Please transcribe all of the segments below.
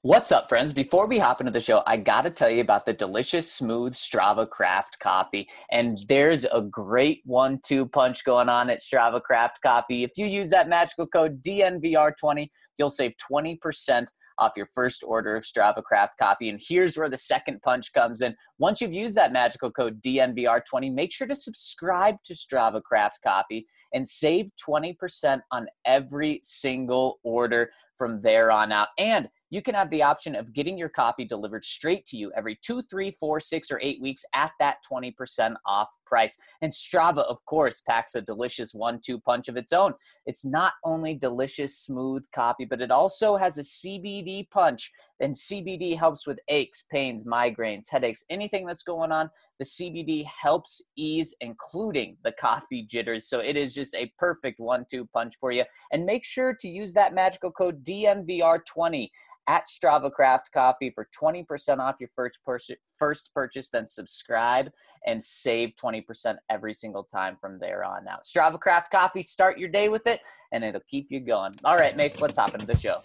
What's up, friends? Before we hop into the show, I got to tell you about the delicious, smooth Strava Craft coffee. And there's a great 1-2 punch going on at Strava Craft Coffee. If you use that magical code DNVR20, you'll save 20% off your first order of Strava Craft Coffee. And here's where the second punch comes in. Once you've used that magical code DNVR20, make sure to subscribe to Strava Craft Coffee and save 20% on every single order from there on out. And you can have the option of getting your coffee delivered straight to you every 2, 3, 4, 6, or 8 weeks at that 20% off price. And Strava, of course, packs a delicious 1-2 punch of its own. It's not only delicious, smooth coffee, but it also has a CBD punch. And CBD helps with aches, pains, migraines, headaches, anything that's going on. The CBD helps ease, including the coffee jitters. So it is just a perfect 1-2 punch for you. And make sure to use that magical code DNVR20 at Strava Craft Coffee for 20% off your first purchase. Then subscribe and save 20% every single time from there on out. Strava Craft Coffee, start your day with it, and it'll keep you going. All right, Mace, let's hop into the show.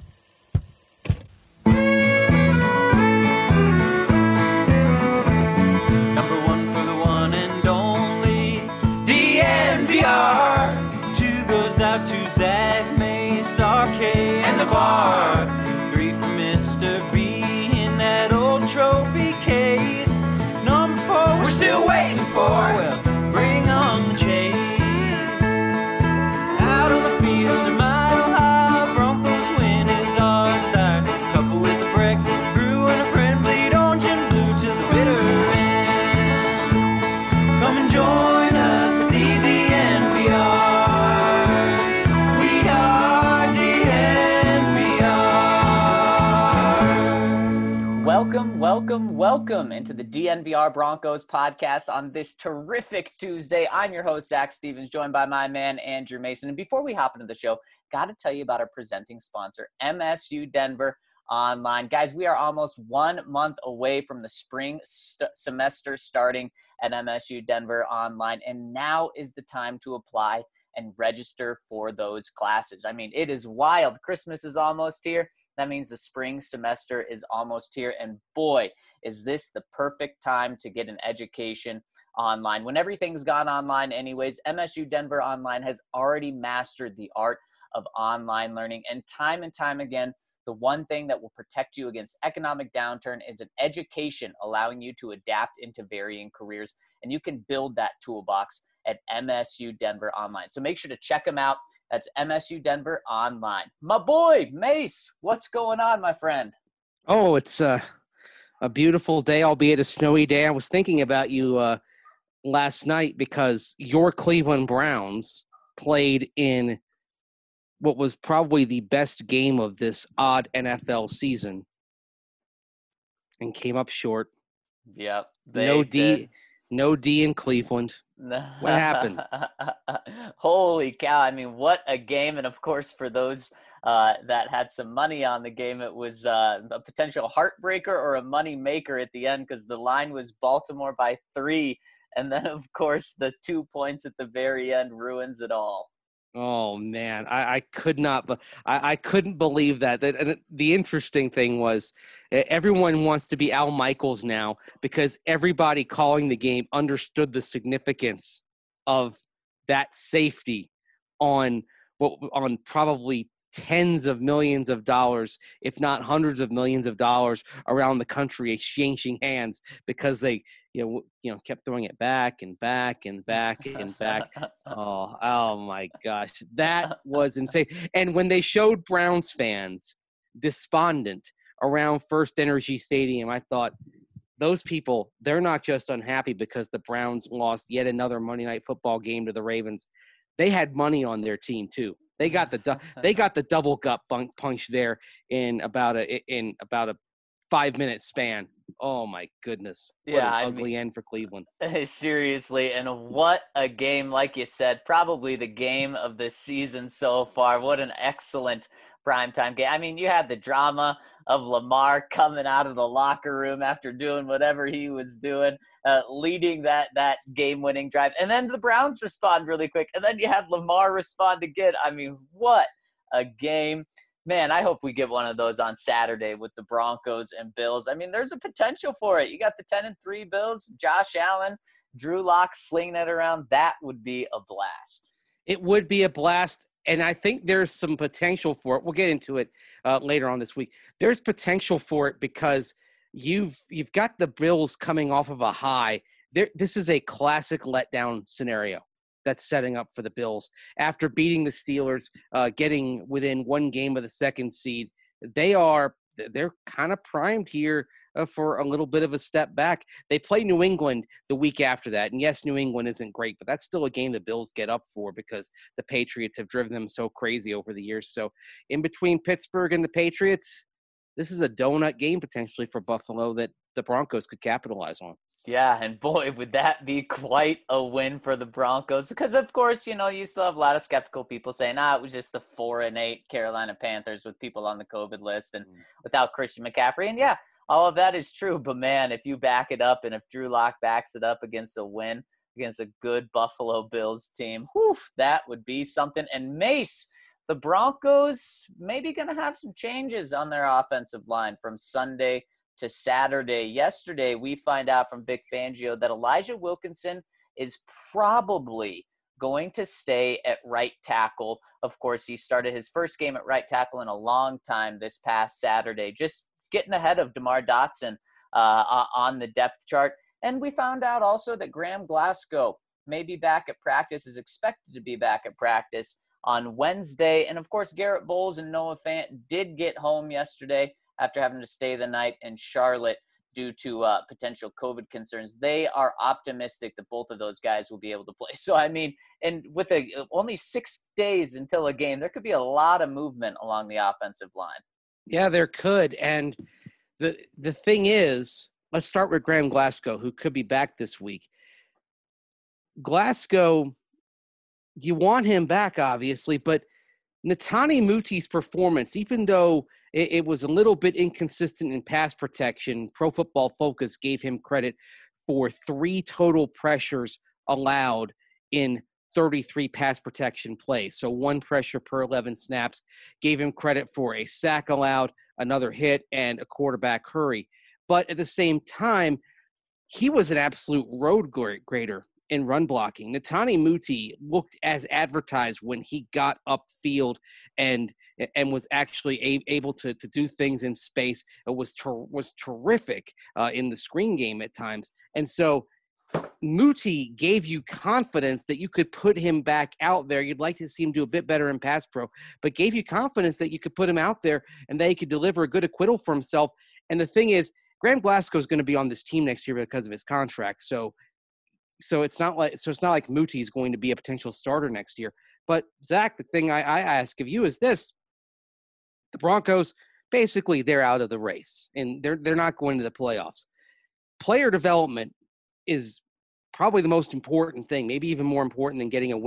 Number one for the one and only DNVR. 2 goes out to Zach, Mace, RK, and the bar. 3 for Mr. B in that old trophy case. Number 4 we're still waiting for. Well, bring on the chase. Out on the field in Mile High, Broncos win is our desire. Couple with a break, brew and a friend, bleed orange and blue to the bitter end. Come and join us at the DNVR. We are DNVR. Welcome into the DNVR Broncos podcast on this terrific Tuesday. I'm your host, Zach Stevens, joined by my man, Andrew Mason. And before we hop into the show, got to tell you about our presenting sponsor, MSU Denver Online. Guys, we are almost 1 month away from the spring semester starting at MSU Denver Online. And now is the time to apply and register for those classes. I mean, it is wild. Christmas is almost here. That means the spring semester is almost here. And boy, is this the perfect time to get an education online. When everything's gone online anyways, MSU Denver Online has already mastered the art of online learning. And time again, the one thing that will protect you against economic downturn is an education allowing you to adapt into varying careers. And you can build that toolbox at MSU Denver Online. So make sure to check them out. That's MSU Denver Online. My boy, Mace, what's going on, my friend? Oh, it's a beautiful day, albeit a snowy day. I was thinking about you last night because your Cleveland Browns played in what was probably the best game of this odd NFL season and came up short. Yep. No D in Cleveland. What happened? Holy cow. I mean, what a game. And of course, for those that had some money on the game, it was a potential heartbreaker or a money maker at the end because the line was Baltimore by 3. And then, of course, the 2 points at the very end ruins it all. Oh, man, I could not, but I couldn't believe that. And the interesting thing was everyone wants to be Al Michaels now because everybody calling the game understood the significance of that safety on probably tens of millions of dollars, if not hundreds of millions of dollars around the country exchanging hands because they, kept throwing it back and back and back and back. Oh my gosh. That was insane. And when they showed Browns fans despondent around First Energy Stadium, I thought, those people, they're not just unhappy because the Browns lost yet another Monday Night Football game to the Ravens. They had money on their team too. They got the double gut punch there in about a 5-minute span. Oh my goodness! What an ugly end for Cleveland. Seriously, and what a game! Like you said, probably the game of the season so far. What an excellent primetime game. I mean, you had the drama of Lamar coming out of the locker room after doing whatever he was doing, leading that game-winning drive. And then the Browns respond really quick. And then you had Lamar respond again. I mean, what a game. Man, I hope we get one of those on Saturday with the Broncos and Bills. I mean, there's a potential for it. You got the 10-3 Bills, Josh Allen, Drew Lock slinging it around. That would be a blast. It would be a blast, and I think there's some potential for it. We'll get into it later on this week. There's potential for it because you've got the Bills coming off of a high. This is a classic letdown scenario that's setting up for the Bills. After beating the Steelers, getting within one game of the second seed, they're kind of primed here for a little bit of a step back. They play New England the week after that. And yes, New England isn't great, but that's still a game the Bills get up for because the Patriots have driven them so crazy over the years. So in between Pittsburgh and the Patriots, this is a donut game potentially for Buffalo that the Broncos could capitalize on. Yeah, and boy, would that be quite a win for the Broncos. Because, of course, you still have a lot of skeptical people saying, it was just the 4-8 Carolina Panthers with people on the COVID list and without Christian McCaffrey. And, yeah, all of that is true. But, man, if you back it up and if Drew Lock backs it up against a win against a good Buffalo Bills team, that would be something. And, Mace, the Broncos maybe going to have some changes on their offensive line from Sunday to Saturday. Yesterday, we find out from Vic Fangio that Elijah Wilkinson is probably going to stay at right tackle. Of course, he started his first game at right tackle in a long time this past Saturday, just getting ahead of DeMar Dotson on the depth chart. And we found out also that Graham Glasgow may be back at practice, is expected to be back at practice on Wednesday. And, of course, Garrett Bowles and Noah Fant did get home yesterday after having to stay the night in Charlotte due to potential COVID concerns. They are optimistic that both of those guys will be able to play. So, I mean, and with only 6 days until a game, there could be a lot of movement along the offensive line. Yeah, there could. And the thing is, let's start with Graham Glasgow, who could be back this week. Glasgow, you want him back, obviously, but Netane Muti's performance, even though it was a little bit inconsistent in pass protection, Pro Football Focus gave him credit for 3 total pressures allowed in 33 pass protection plays. So 1 pressure per 11 snaps. Gave him credit for a sack allowed, another hit, and a quarterback hurry. But at the same time, he was an absolute road grader in run blocking. Netane Muti looked as advertised when he got upfield and was actually able to do things in space. It was terrific in the screen game at times. And so Muti gave you confidence that you could put him back out there. You'd like to see him do a bit better in pass pro, but gave you confidence that you could put him out there and that he could deliver a good acquittal for himself. And the thing is, Graham Glasgow is going to be on this team next year because of his contract. So it's not like Muti is going to be a potential starter next year. But Zach, the thing I ask of you is this: the Broncos, basically, they're out of the race and they're not going to the playoffs. Player development is probably the most important thing, maybe even more important than getting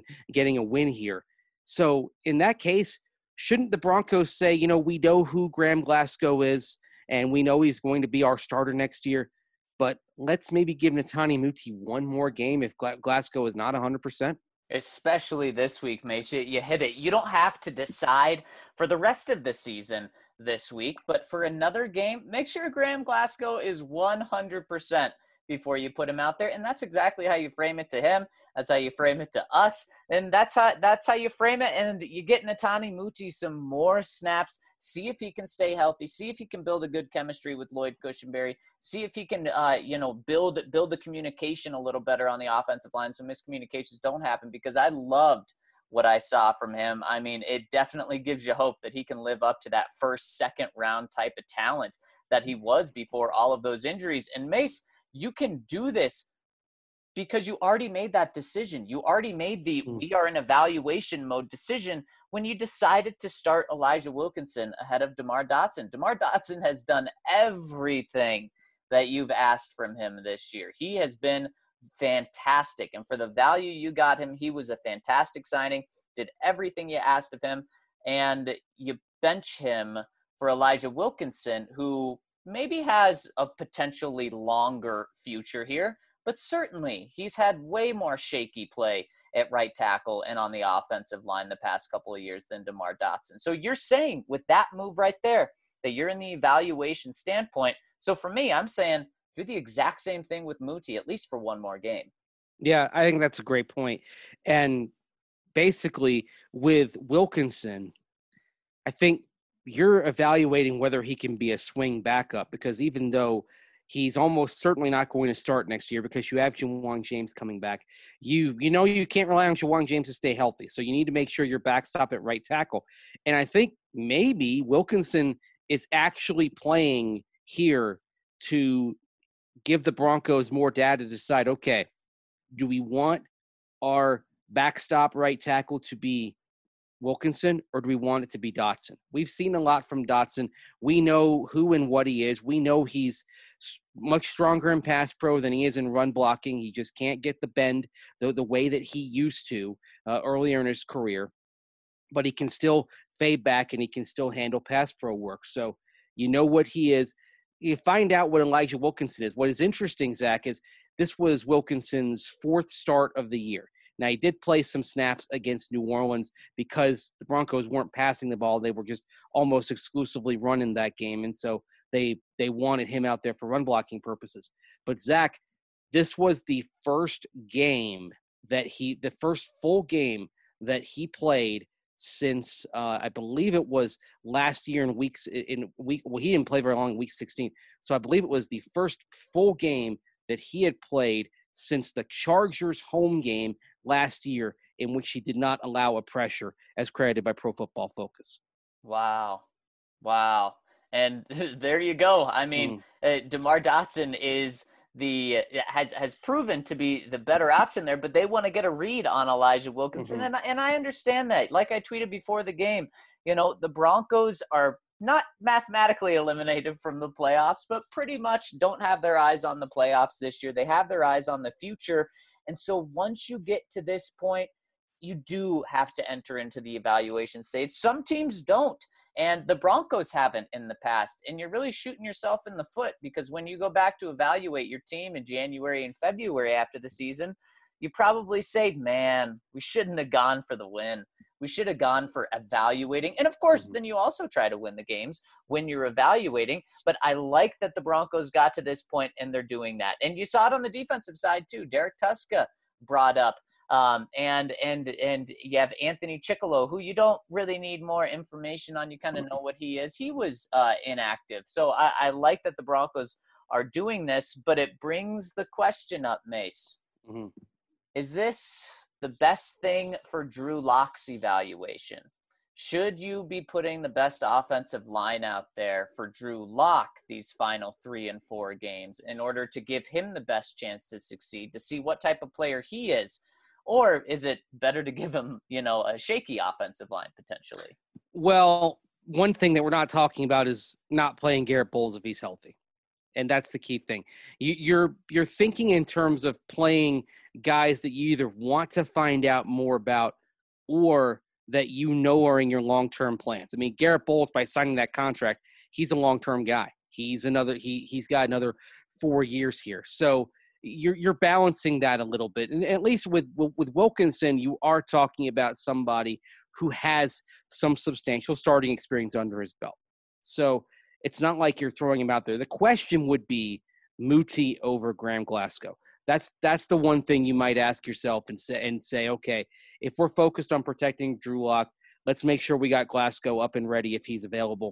a win here. So in that case, shouldn't the Broncos say, we know who Graham Glasgow is and we know he's going to be our starter next year, but let's maybe give Netane Muti one more game if Glasgow is not 100%? Especially this week, Mace. You hit it. You don't have to decide for the rest of the season this week, but for another game, make sure Graham Glasgow is 100% before you put him out there. And that's exactly how you frame it to him. That's how you frame it to us. And that's how you frame it. And you get Netane Muti some more snaps. See if he can stay healthy. See if he can build a good chemistry with Lloyd Cushenberry. See if he can, build the communication a little better on the offensive line so miscommunications don't happen, because I loved what I saw from him. I mean, it definitely gives you hope that he can live up to that first, second round type of talent that he was before all of those injuries. And Mace, you can do this because you already made that decision. You already made we are in evaluation mode decision when you decided to start Elijah Wilkinson ahead of DeMar Dotson. DeMar Dotson has done everything that you've asked from him this year. He has been fantastic. And for the value you got him, he was a fantastic signing, did everything you asked of him. And you bench him for Elijah Wilkinson, who maybe has a potentially longer future here, but certainly he's had way more shaky play at right tackle and on the offensive line the past couple of years than DeMar Dotson. So you're saying with that move right there that you're in the evaluation standpoint. So for me, I'm saying do the exact same thing with Muti, at least for one more game. Yeah, I think that's a great point. And basically, with Wilkinson, I think you're evaluating whether he can be a swing backup, because even though he's almost certainly not going to start next year because you have Jawaan James coming back, you know you can't rely on Jawaan James to stay healthy. So you need to make sure you're backstop at right tackle. And I think maybe Wilkinson is actually playing here to give the Broncos more data to decide, okay, do we want our backstop right tackle to be Wilkinson, or do we want it to be Dotson? We've seen a lot from Dotson. We know who and what he is. We know he's much stronger in pass pro than he is in run blocking. He just can't get the bend the way that he used to earlier in his career. But he can still fade back and he can still handle pass pro work. So you know what he is. You find out what Elijah Wilkinson is. What is interesting, Zach, is this was Wilkinson's fourth start of the year. Now, he did play some snaps against New Orleans because the Broncos weren't passing the ball. They were just almost exclusively running that game. And so they wanted him out there for run blocking purposes. But, Zach, this was the first full game that he played since I believe it was last year well, he didn't play very long in week 16. So I believe it was the first full game that he had played since the Chargers home game last year, in which he did not allow a pressure, as credited by Pro Football Focus. Wow. And there you go. I mean, DeMar Dotson has proven to be the better option there, but they want to get a read on Elijah Wilkinson. And I understand that. Like I tweeted before the game, the Broncos are not mathematically eliminated from the playoffs, but pretty much don't have their eyes on the playoffs this year. They have their eyes on the future. And so once you get to this point, you do have to enter into the evaluation stage. Some teams don't, and the Broncos haven't in the past. And you're really shooting yourself in the foot, because when you go back to evaluate your team in January and February after the season, you probably say, man, we shouldn't have gone for the win. We should have gone for evaluating. And of course, then you also try to win the games when you're evaluating. But I like that the Broncos got to this point and they're doing that. And you saw it on the defensive side too. Derek Tuska brought up. And you have Anthony Chickillo, who you don't really need more information on. You kind of know what he is. He was inactive. So I like that the Broncos are doing this, but it brings the question up, Mace. Mm-hmm. Is this the best thing for Drew Lock's evaluation? Should you be putting the best offensive line out there for Drew Lock these final 3 and 4 games in order to give him the best chance to succeed, to see what type of player he is? Or is it better to give him, a shaky offensive line potentially? Well, one thing that we're not talking about is not playing Garrett Bowles if he's healthy. And that's the key thing. You're thinking in terms of playing guys that you either want to find out more about or that are in your long-term plans. I mean, Garrett Bowles, by signing that contract, he's a long-term guy. He's got another 4 years here. So you're balancing that a little bit. And at least with Wilkinson, you are talking about somebody who has some substantial starting experience under his belt. So it's not like you're throwing him out there. The question would be Muti over Graham Glasgow. That's the one thing you might ask yourself and say, okay, if we're focused on protecting Drew Lock, let's make sure we got Glasgow up and ready if he's available.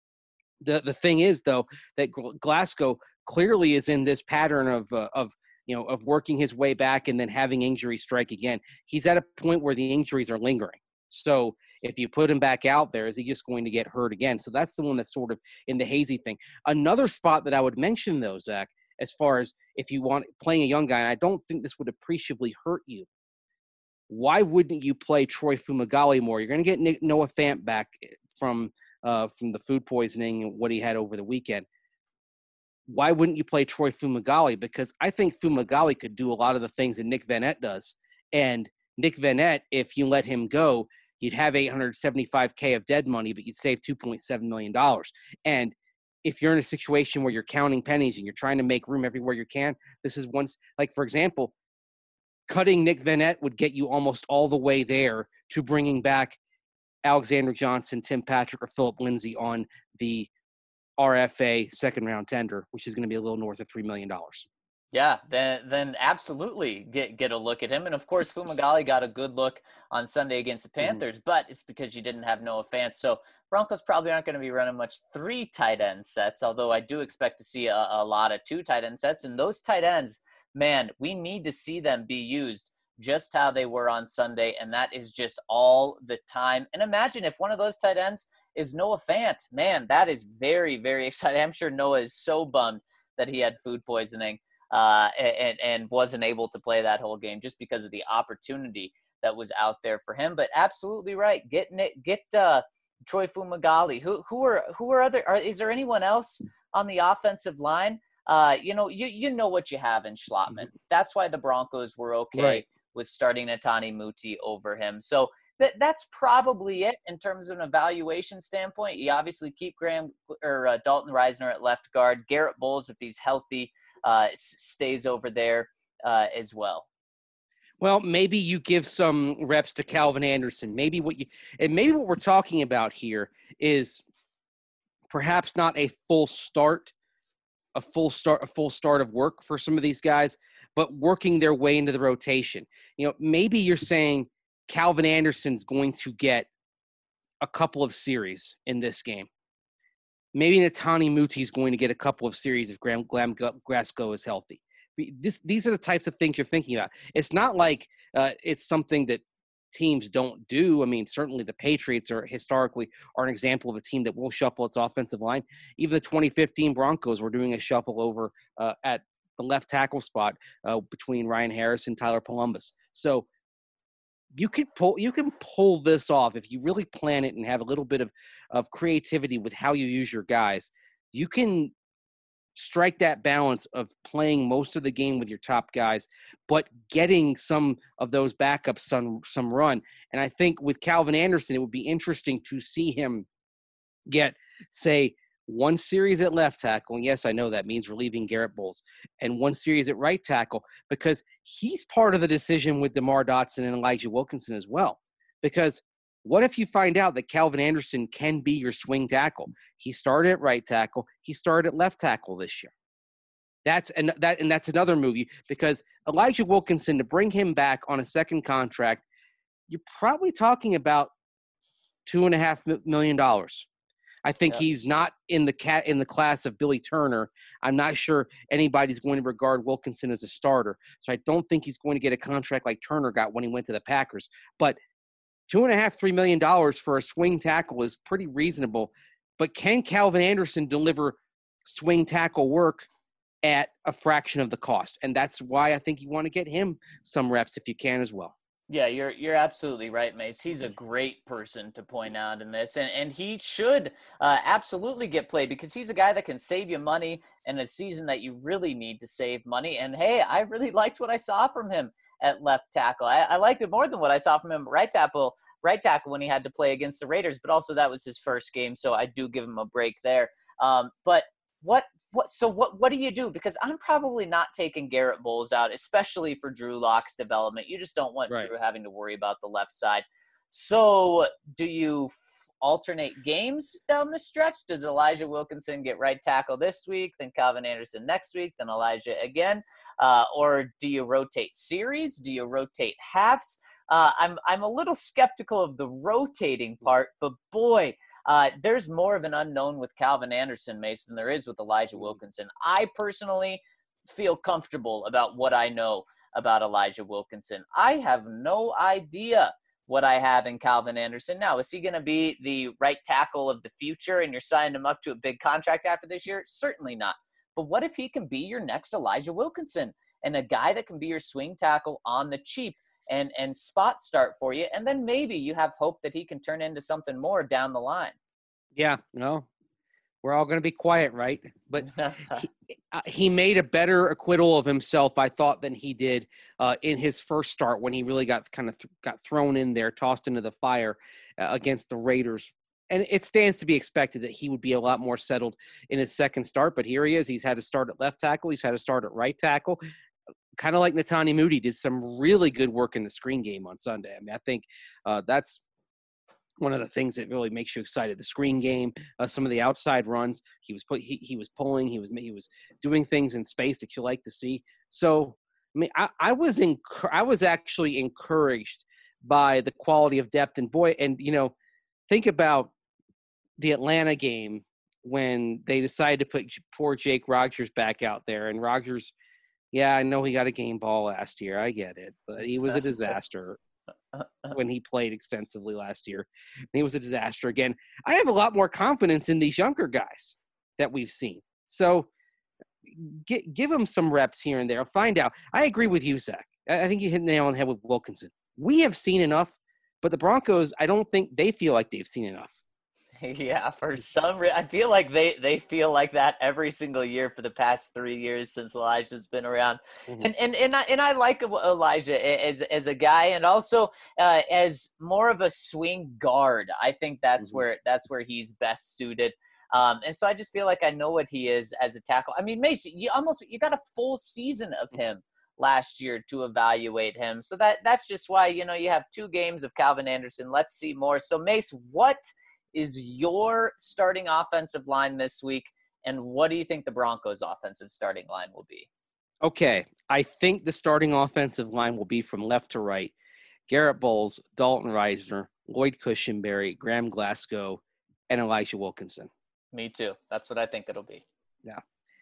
The thing is, though, that Glasgow clearly is in this pattern of working his way back and then having injuries strike again. He's at a point where the injuries are lingering. So if you put him back out there, is he just going to get hurt again? So that's the one that's sort of in the hazy thing. Another spot that I would mention, though, Zach, as far as if you want playing a young guy, and I don't think this would appreciably hurt you, why wouldn't you play Troy Fumagalli more? You're going to get Noah Fant back from the food poisoning and what he had over the weekend. Why wouldn't you play Troy Fumagalli? Because I think Fumagalli could do a lot of the things that Nick Vannett does. And Nick Vannett, if you let him go, you'd have $875K of dead money, but you'd save $2.7 million. And if you're in a situation where you're counting pennies and you're trying to make room everywhere you can, this is once, like, for example, cutting Nick Vanette would get you almost all the way there to bringing back Alexander Johnson, Tim Patrick, or Philip Lindsay on the RFA second-round tender, which is going to be a little north of $3 million. Yeah, then absolutely get a look at him. And of course, Fumagalli got a good look on Sunday against the Panthers, but it's because you didn't have Noah Fant. So Broncos probably aren't going to be running much 3 tight end sets, although I do expect to see a lot of 2 tight end sets. And those tight ends, man, we need to see them be used just how they were on Sunday, and that is just all the time. And imagine if one of those tight ends is Noah Fant. Man, that is very, very exciting. I'm sure Noah is so bummed that he had food poisoning and wasn't able to play that whole game just because of the opportunity that was out there for him. But absolutely right. Get Troy Fumagalli. Who are other? Is there anyone else on the offensive line? You know what you have in Schlottmann. That's why the Broncos were okay with starting Netani Muti over him. So that's probably it in terms of an evaluation standpoint. You obviously keep Dalton Reisner at left guard. Garrett Bowles, if he's healthy, stays over there as well. Well, maybe you give some reps to Calvin Anderson. Maybe what we're talking about here is perhaps not a full start of work for some of these guys, but working their way into the rotation. Maybe you're saying Calvin Anderson's going to get a couple of series in this game. Maybe Netani Muti is going to get a couple of series if Graham Glasgow is healthy. These are the types of things you're thinking about. It's not like it's something that teams don't do. I mean, certainly the Patriots are an example of a team that will shuffle its offensive line. Even the 2015 Broncos were doing a shuffle over at the left tackle spot between Ryan Harris and Tyler Columbus. So you can pull this off if you really plan it and have a little bit of creativity with how you use your guys. You can strike that balance of playing most of the game with your top guys, but getting some of those backups some run. And I think with Calvin Anderson, it would be interesting to see him get, say, 1 series at left tackle. And yes, I know that means relieving Garrett Bowles, and 1 series at right tackle, because he's part of the decision with DeMar Dotson and Elijah Wilkinson as well. Because what if you find out that Calvin Anderson can be your swing tackle? He started at right tackle. He started at left tackle this year. That's another move, because Elijah Wilkinson, to bring him back on a second contract, you're probably talking about $2.5 million. I think he's not in the class of Billy Turner. I'm not sure anybody's going to regard Wilkinson as a starter. So I don't think he's going to get a contract like Turner got when he went to the Packers. But $2.5-3 million for a swing tackle is pretty reasonable. But can Calvin Anderson deliver swing tackle work at a fraction of the cost? And that's why I think you want to get him some reps if you can as well. Yeah, you're absolutely right, Mace. He's a great person to point out in this, and he should absolutely get played, because he's a guy that can save you money in a season that you really need to save money. And hey, I really liked what I saw from him at left tackle. I liked it more than what I saw from him at right tackle when he had to play against the Raiders, but also that was his first game, so I do give him a break there. But what do you do? Because I'm probably not taking Garrett Bowles out, especially for Drew Lock's development. You just don't want Drew having to worry about the left side. So do you alternate games down the stretch? Does Elijah Wilkinson get right tackle this week, then Calvin Anderson next week, then Elijah again? Or do you rotate series? Do you rotate halves? I'm a little skeptical of the rotating part, but boy, there's more of an unknown with Calvin Anderson, Mace, than there is with Elijah Wilkinson. I personally feel comfortable about what I know about Elijah Wilkinson. I have no idea what I have in Calvin Anderson. Now, is he going to be the right tackle of the future and you're signing him up to a big contract after this year? Certainly not. But what if he can be your next Elijah Wilkinson and a guy that can be your swing tackle on the cheap and spot start for you, and then maybe you have hope that he can turn into something more down the line. Yeah, no, we're all going to be quiet, right? But he made a better acquittal of himself, I thought, than he did in his first start when he really got thrown in there, tossed into the fire against the Raiders. And it stands to be expected that he would be a lot more settled in his second start. But here he is. He's had to start at left tackle. He's had to start at right tackle. kind of like Netani Moody did some really good work in the screen game on Sunday. I mean, I think that's one of the things that really makes you excited. The screen game, some of the outside runs, he was pulling, he was doing things in space that you like to see. So, I mean, I was actually encouraged by the quality of depth, and boy, and think about the Atlanta game when they decided to put poor Jake Rogers back out there, and Rogers, yeah, I know he got a game ball last year, I get it, but he was a disaster. When he played extensively last year. He was a disaster again. I have a lot more confidence in these younger guys that we've seen. So give them some reps here and there. Find out. I agree with you, Zach. I think you hit the nail on the head with Wilkinson. We have seen enough, but the Broncos, I don't think they feel like they've seen enough. Yeah, for some reason, I feel like they feel like that every single year for the past 3 years since Elijah's been around. Mm-hmm. And I like Elijah as a guy, and also as more of a swing guard. I think that's mm-hmm. where he's best suited. And so I just feel like I know what he is as a tackle. I mean, Mason, you got a full season of him last year to evaluate him. So that's just why you have 2 games of Calvin Anderson. Let's see more. So Mace, what is your starting offensive line this week, and what do you think the Broncos' offensive starting line will be? Okay, I think the starting offensive line will be from left to right. Garrett Bowles, Dalton Risner, Lloyd Cushenberry, Graham Glasgow, and Elijah Wilkinson. Me too. That's what I think it'll be. Yeah.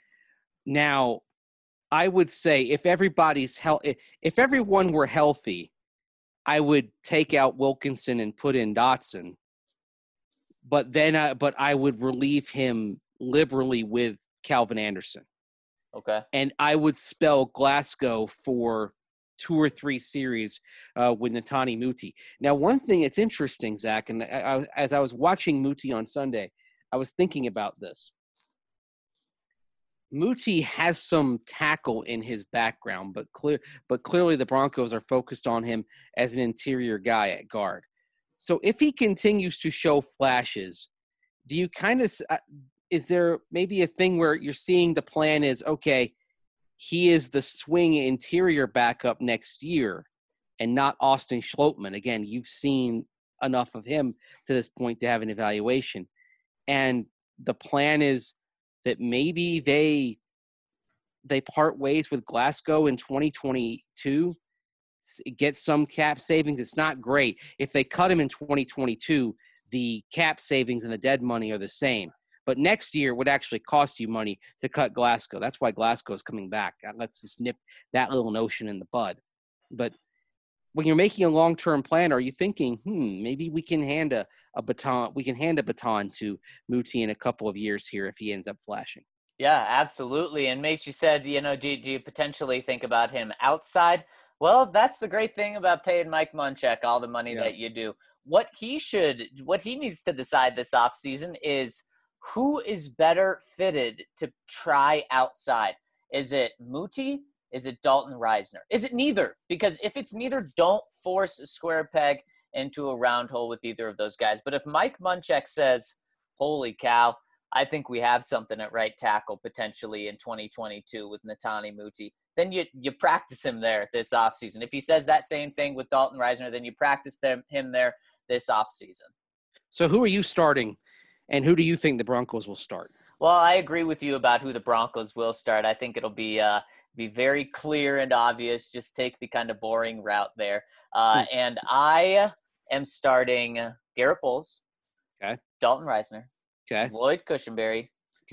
Now, I would say if everyone were healthy, I would take out Wilkinson and put in Dotson. But then, I would relieve him liberally with Calvin Anderson. Okay. And I would spell Glasgow for 2 or 3 series with Netani Muti. Now, one thing that's interesting, Zach, and as I was watching Muti on Sunday, I was thinking about this. Muti has some tackle in his background, but clearly the Broncos are focused on him as an interior guy at guard. So if he continues to show flashes, do you is there maybe a thing where you're seeing the plan is, okay, he is the swing interior backup next year and not Austin Schlottman? Again, you've seen enough of him to this point to have an evaluation. And the plan is that maybe they part ways with Glasgow in 2022, get some cap savings. It's not great. If they cut him in 2022, the cap savings and the dead money are the same. But next year would actually cost you money to cut Glasgow. That's why Glasgow is coming back. Let's just nip that little notion in the bud. But when you're making a long-term plan, are you thinking, maybe we can hand a baton? We can hand a baton to Muti in a couple of years here if he ends up flashing. Yeah, absolutely. And Mace, you said, do you potentially think about him outside? Well, that's the great thing about paying Mike Munchak all the money that you do. What he needs to decide this offseason is who is better fitted to try outside. Is it Muti? Is it Dalton Risner? Is it neither? Because if it's neither, don't force a square peg into a round hole with either of those guys. But if Mike Munchak says, holy cow, I think we have something at right tackle potentially in 2022 with Netani Muti, then you practice him there this offseason. If he says that same thing with Dalton Risner, then you practice him there this offseason. So who are you starting, and who do you think the Broncos will start? Well, I agree with you about who the Broncos will start. I think it'll be very clear and obvious. Just take the kind of boring route there. And I am starting Garrett Bowles, Dalton Risner, Lloyd Cushenberry,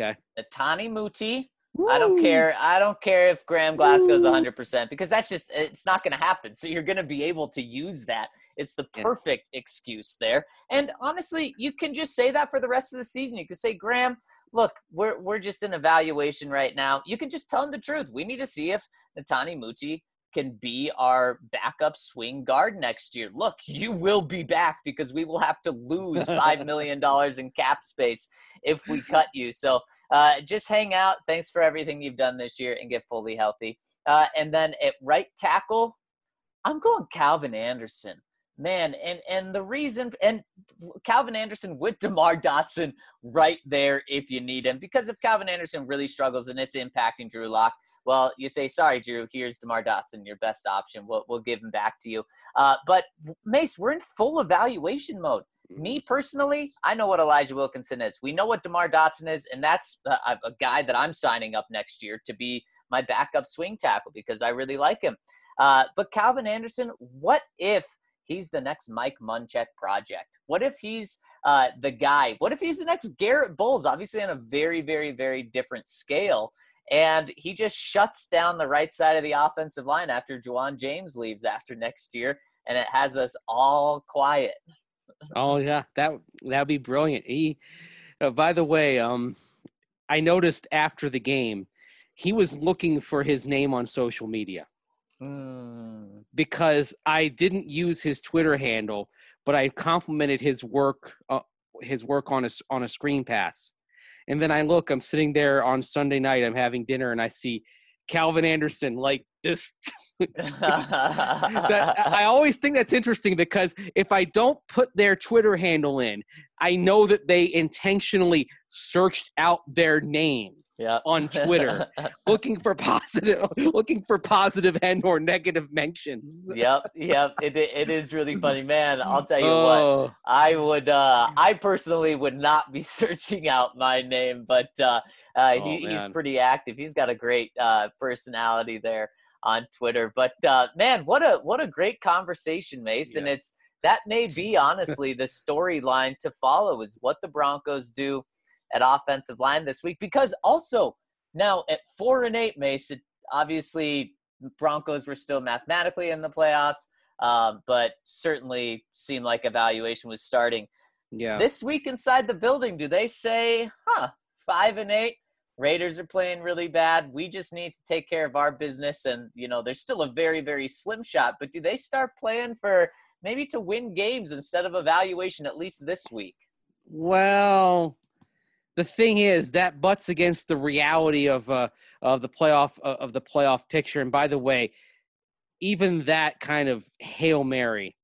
Netani Muti. Woo. I don't care if Graham Glasgow's 100% because it's not going to happen. So you're going to be able to use that. It's the perfect excuse there. And honestly, you can just say that for the rest of the season. You can say, Graham, look, we're just in evaluation right now. You can just tell him the truth. We need to see if Netani Muti can be our backup swing guard next year. Look, you will be back because we will have to lose $5 million in cap space if we cut you. So just hang out. Thanks for everything you've done this year and get fully healthy. And then at right tackle, I'm going Calvin Anderson. Man, and the reason – and Calvin Anderson with DeMar Dotson right there if you need him. Because if Calvin Anderson really struggles and it's impacting Drew Lock, well, you say, sorry, Drew, here's DeMar Dotson, your best option. We'll give him back to you. But Mace, we're in full evaluation mode. Me personally, I know what Elijah Wilkinson is. We know what DeMar Dotson is, and that's a guy that I'm signing up next year to be my backup swing tackle because I really like him. But Calvin Anderson, what if he's the next Mike Munchak project? What if he's the guy? What if he's the next Garrett Bowles, obviously on a very, very, very different scale, and he just shuts down the right side of the offensive line after Juwan James leaves after next year, and it has us all quiet? Oh yeah, that'd be brilliant. By the way, I noticed after the game, he was looking for his name on social media because I didn't use his Twitter handle, but I complimented his work on a screen pass, and then I'm sitting there on Sunday night, I'm having dinner, and I see Calvin Anderson like this. I always think that's interesting because if I don't put their Twitter handle in, I know that they intentionally searched out their name on Twitter, looking for positive and or negative mentions. Yep. It is really funny, man. I'll tell you what. I personally would not be searching out my name, but he's pretty active. He's got a great personality there on Twitter. But man, what a great conversation, Mason. Yeah. That may be honestly the storyline to follow is what the Broncos do at offensive line this week, because also now at 4-8, Mason, obviously Broncos were still mathematically in the playoffs, but certainly seemed like evaluation was starting. Yeah. This week inside the building, do they say, 5-8? Raiders are playing really bad. We just need to take care of our business. And, there's still a very, very slim shot. But do they start playing for maybe to win games instead of evaluation, at least this week? Well, the thing is that butts against the reality of the playoff picture. And by the way, even that kind of Hail Mary,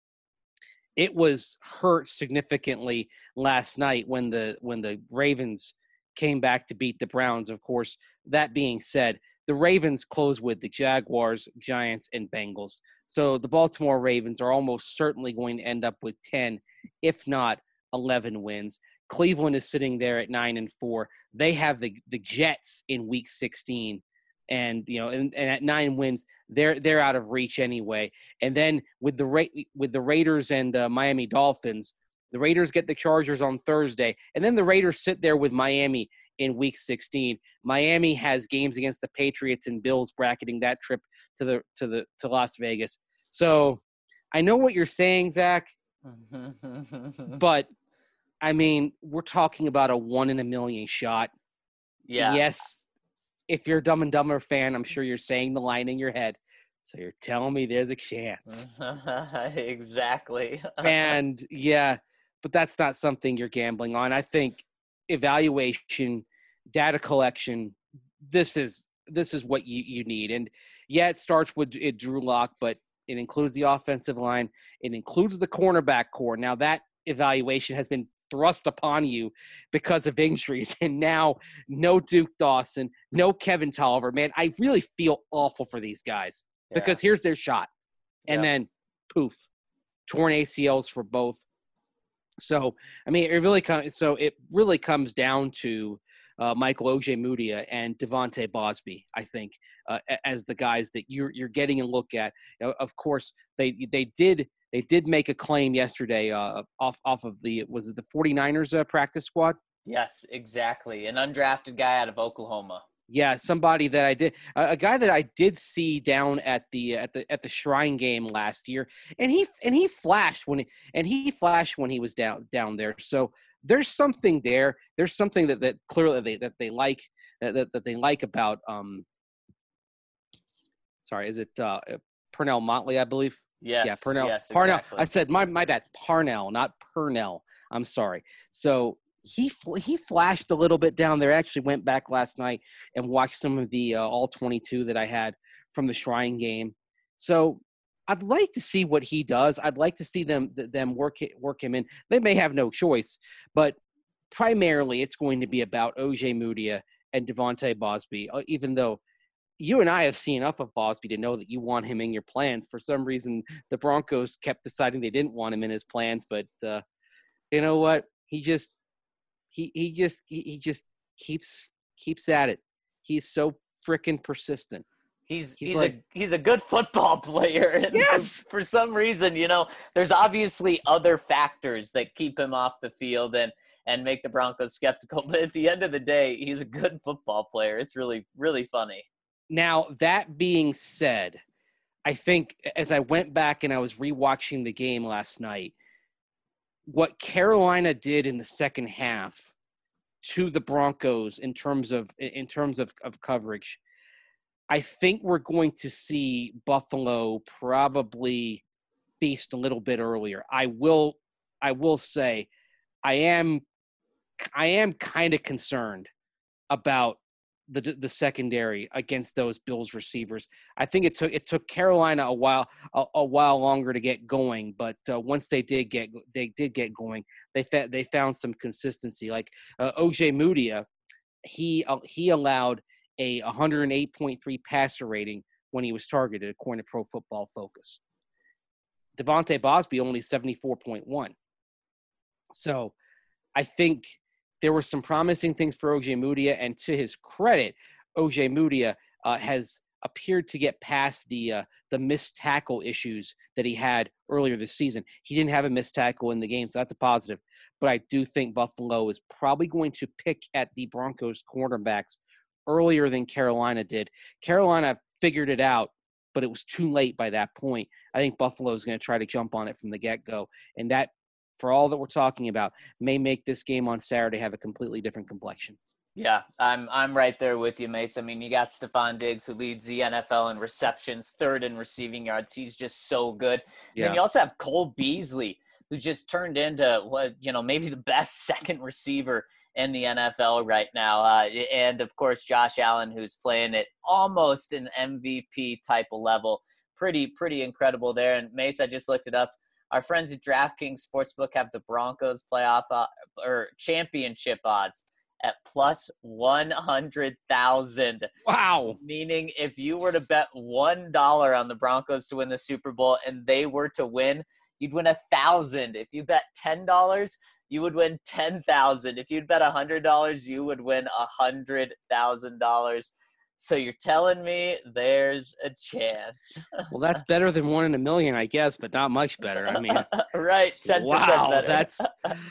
it was hurt significantly last night when the Ravens came back to beat the Browns. Of course, that being said, the Ravens close with the Jaguars, Giants, and Bengals. So the Baltimore Ravens are almost certainly going to end up with 10, if not 11 wins. Cleveland is sitting there at 9-4. They have the Jets in Week 16, and and at 9 wins, they're out of reach anyway. And then with the Raiders and Miami Dolphins, the Raiders get the Chargers on Thursday, and then the Raiders sit there with Miami in Week 16. Miami has games against the Patriots and Bills, bracketing that trip to Las Vegas. So I know what you're saying, Zach, but I mean, we're talking about a 1 in a million shot. Yeah. Yes, if you're a Dumb and Dumber fan, I'm sure you're saying the line in your head. So you're telling me there's a chance. Exactly. And yeah, but that's not something you're gambling on. I think evaluation, data collection, this is what you need. And yeah, it starts with Drew Lock, but it includes the offensive line. It includes the cornerback core. Now that evaluation has been thrust upon you because of injuries, and now no Duke Dawson, no Kevin Tolliver. Man, I really feel awful for these guys because here's their shot, and then poof, torn ACLs for both. So I mean, it really comes down to Michael Ojemudia and Devontae Bosby, I think, as the guys that you're getting a look at. Of course, they did make a claim yesterday off of the 49ers practice squad. Yes, exactly. An undrafted guy out of Oklahoma. Yeah, somebody that a guy that I did see down at the Shrine game last year, and he flashed when he was down there. So there's something there. There's something that clearly they like that they like about sorry, is it Pernell Motley, I believe? Yes. Yeah, Pernell. Yes, Parnell. exactly. I said my bad. Parnell, not Pernell. I'm sorry. So he flashed a little bit down there. I actually went back last night and watched some of the all 22 that I had from the Shrine game. So I'd like to see what he does. I'd like to see them work him in. They may have no choice, but primarily it's going to be about Ojemudia and Devontae Bosby. Even though you and I have seen enough of Bosby to know that you want him in your plans. For some reason, the Broncos kept deciding they didn't want him in his plans, but you know what? He just keeps at it. He's so freaking persistent. He's a good football player. And Yes! for some reason, there's obviously other factors that keep him off the field and make the Broncos skeptical. But at the end of the day, he's a good football player. It's really, really funny. Now, that being said, I think as I went back and I was rewatching the game last night, what Carolina did in the second half to the Broncos in terms of coverage, I think we're going to see Buffalo probably feast a little bit earlier. I will say I am kind of concerned about the secondary against those Bills receivers. I think it took Carolina a while longer to get going, but once they did get going, they found some consistency. Like OJ Mudia, he allowed a 108.3 passer rating when he was targeted, according to Pro Football Focus. Devontae Bosby only 74.1. So I think there were some promising things for OJ Mudia, and to his credit, OJ Mudia has appeared to get past the missed tackle issues that he had earlier this season. He didn't have a missed tackle in the game, so that's a positive. But I do think Buffalo is probably going to pick at the Broncos cornerbacks earlier than Carolina did. Carolina figured it out, but it was too late by that point. I think Buffalo is going to try to jump on it from the get-go, and that, for all that we're talking about, may make this game on Saturday have a completely different complexion. Yeah, I'm right there with you, Mace. I mean, you got Stephon Diggs, who leads the NFL in receptions, third in receiving yards. He's just so good. Yeah. Then you also have Cole Beasley, who's just turned into maybe the best second receiver in the NFL right now. And of course, Josh Allen, who's playing at almost an MVP type of level. Pretty incredible there. And Mace, I just looked it up. Our friends at DraftKings Sportsbook have the Broncos playoff or championship odds at plus 100,000. Wow. Meaning if you were to bet $1 on the Broncos to win the Super Bowl and they were to win, you'd win 1,000. If you bet $10, you would win 10,000. If you'd bet $100, you would win $100,000. So you're telling me there's a chance. Well, that's better than 1 in a million, I guess, but not much better. I mean, right, 10% wow, better. That's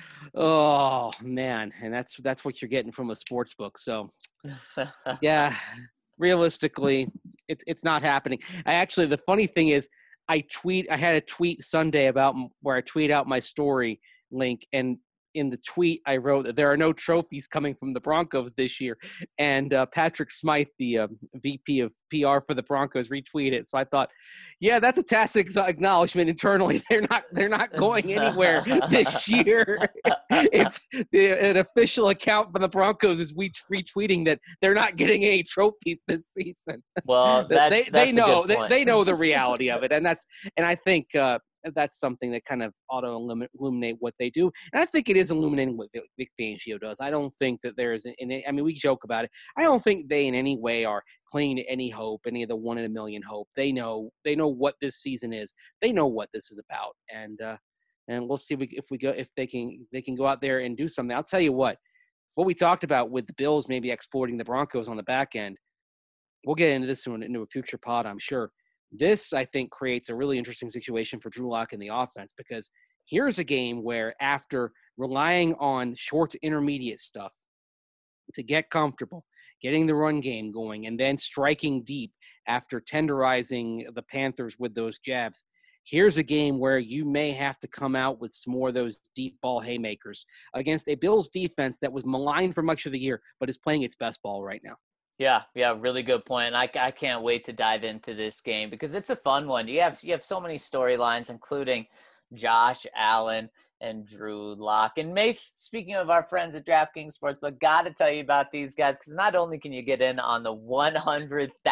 oh man, and that's what you're getting from a sports book. So, yeah, realistically, it's not happening. The funny thing is, I had a tweet Sunday about where I tweet out my story link, and in the tweet I wrote that there are no trophies coming from the Broncos this year, and Patrick Smythe, the VP of PR for the Broncos, retweeted it. So I thought, yeah, that's a tacit acknowledgement internally. They're not going anywhere this year. If an official account for the Broncos is retweeting that they're not getting any trophies this season, well, they know they know the reality of it, and I think. That's something that kind of ought to illuminate what they do. And I think it is illuminating what Vic Fangio does. I don't think that there is we joke about it. I don't think they in any way are clinging to any hope, any of the 1 in a million hope. They know what this season is. They know what this is about. And we'll see if they can go out there and do something. I'll tell you what we talked about with the Bills maybe exploiting the Broncos on the back end. We'll get into this into a future pod, I'm sure. This, I think, creates a really interesting situation for Drew Lock in the offense, because here's a game where after relying on short to intermediate stuff to get comfortable, getting the run game going, and then striking deep after tenderizing the Panthers with those jabs, here's a game where you may have to come out with some more of those deep ball haymakers against a Bills defense that was maligned for much of the year but is playing its best ball right now. Yeah, really good point. I can't wait to dive into this game because it's a fun one. You have so many storylines, including Josh Allen and Drew Lock. And Mace, speaking of our friends at DraftKings Sportsbook, got to tell you about these guys, because not only can you get in on the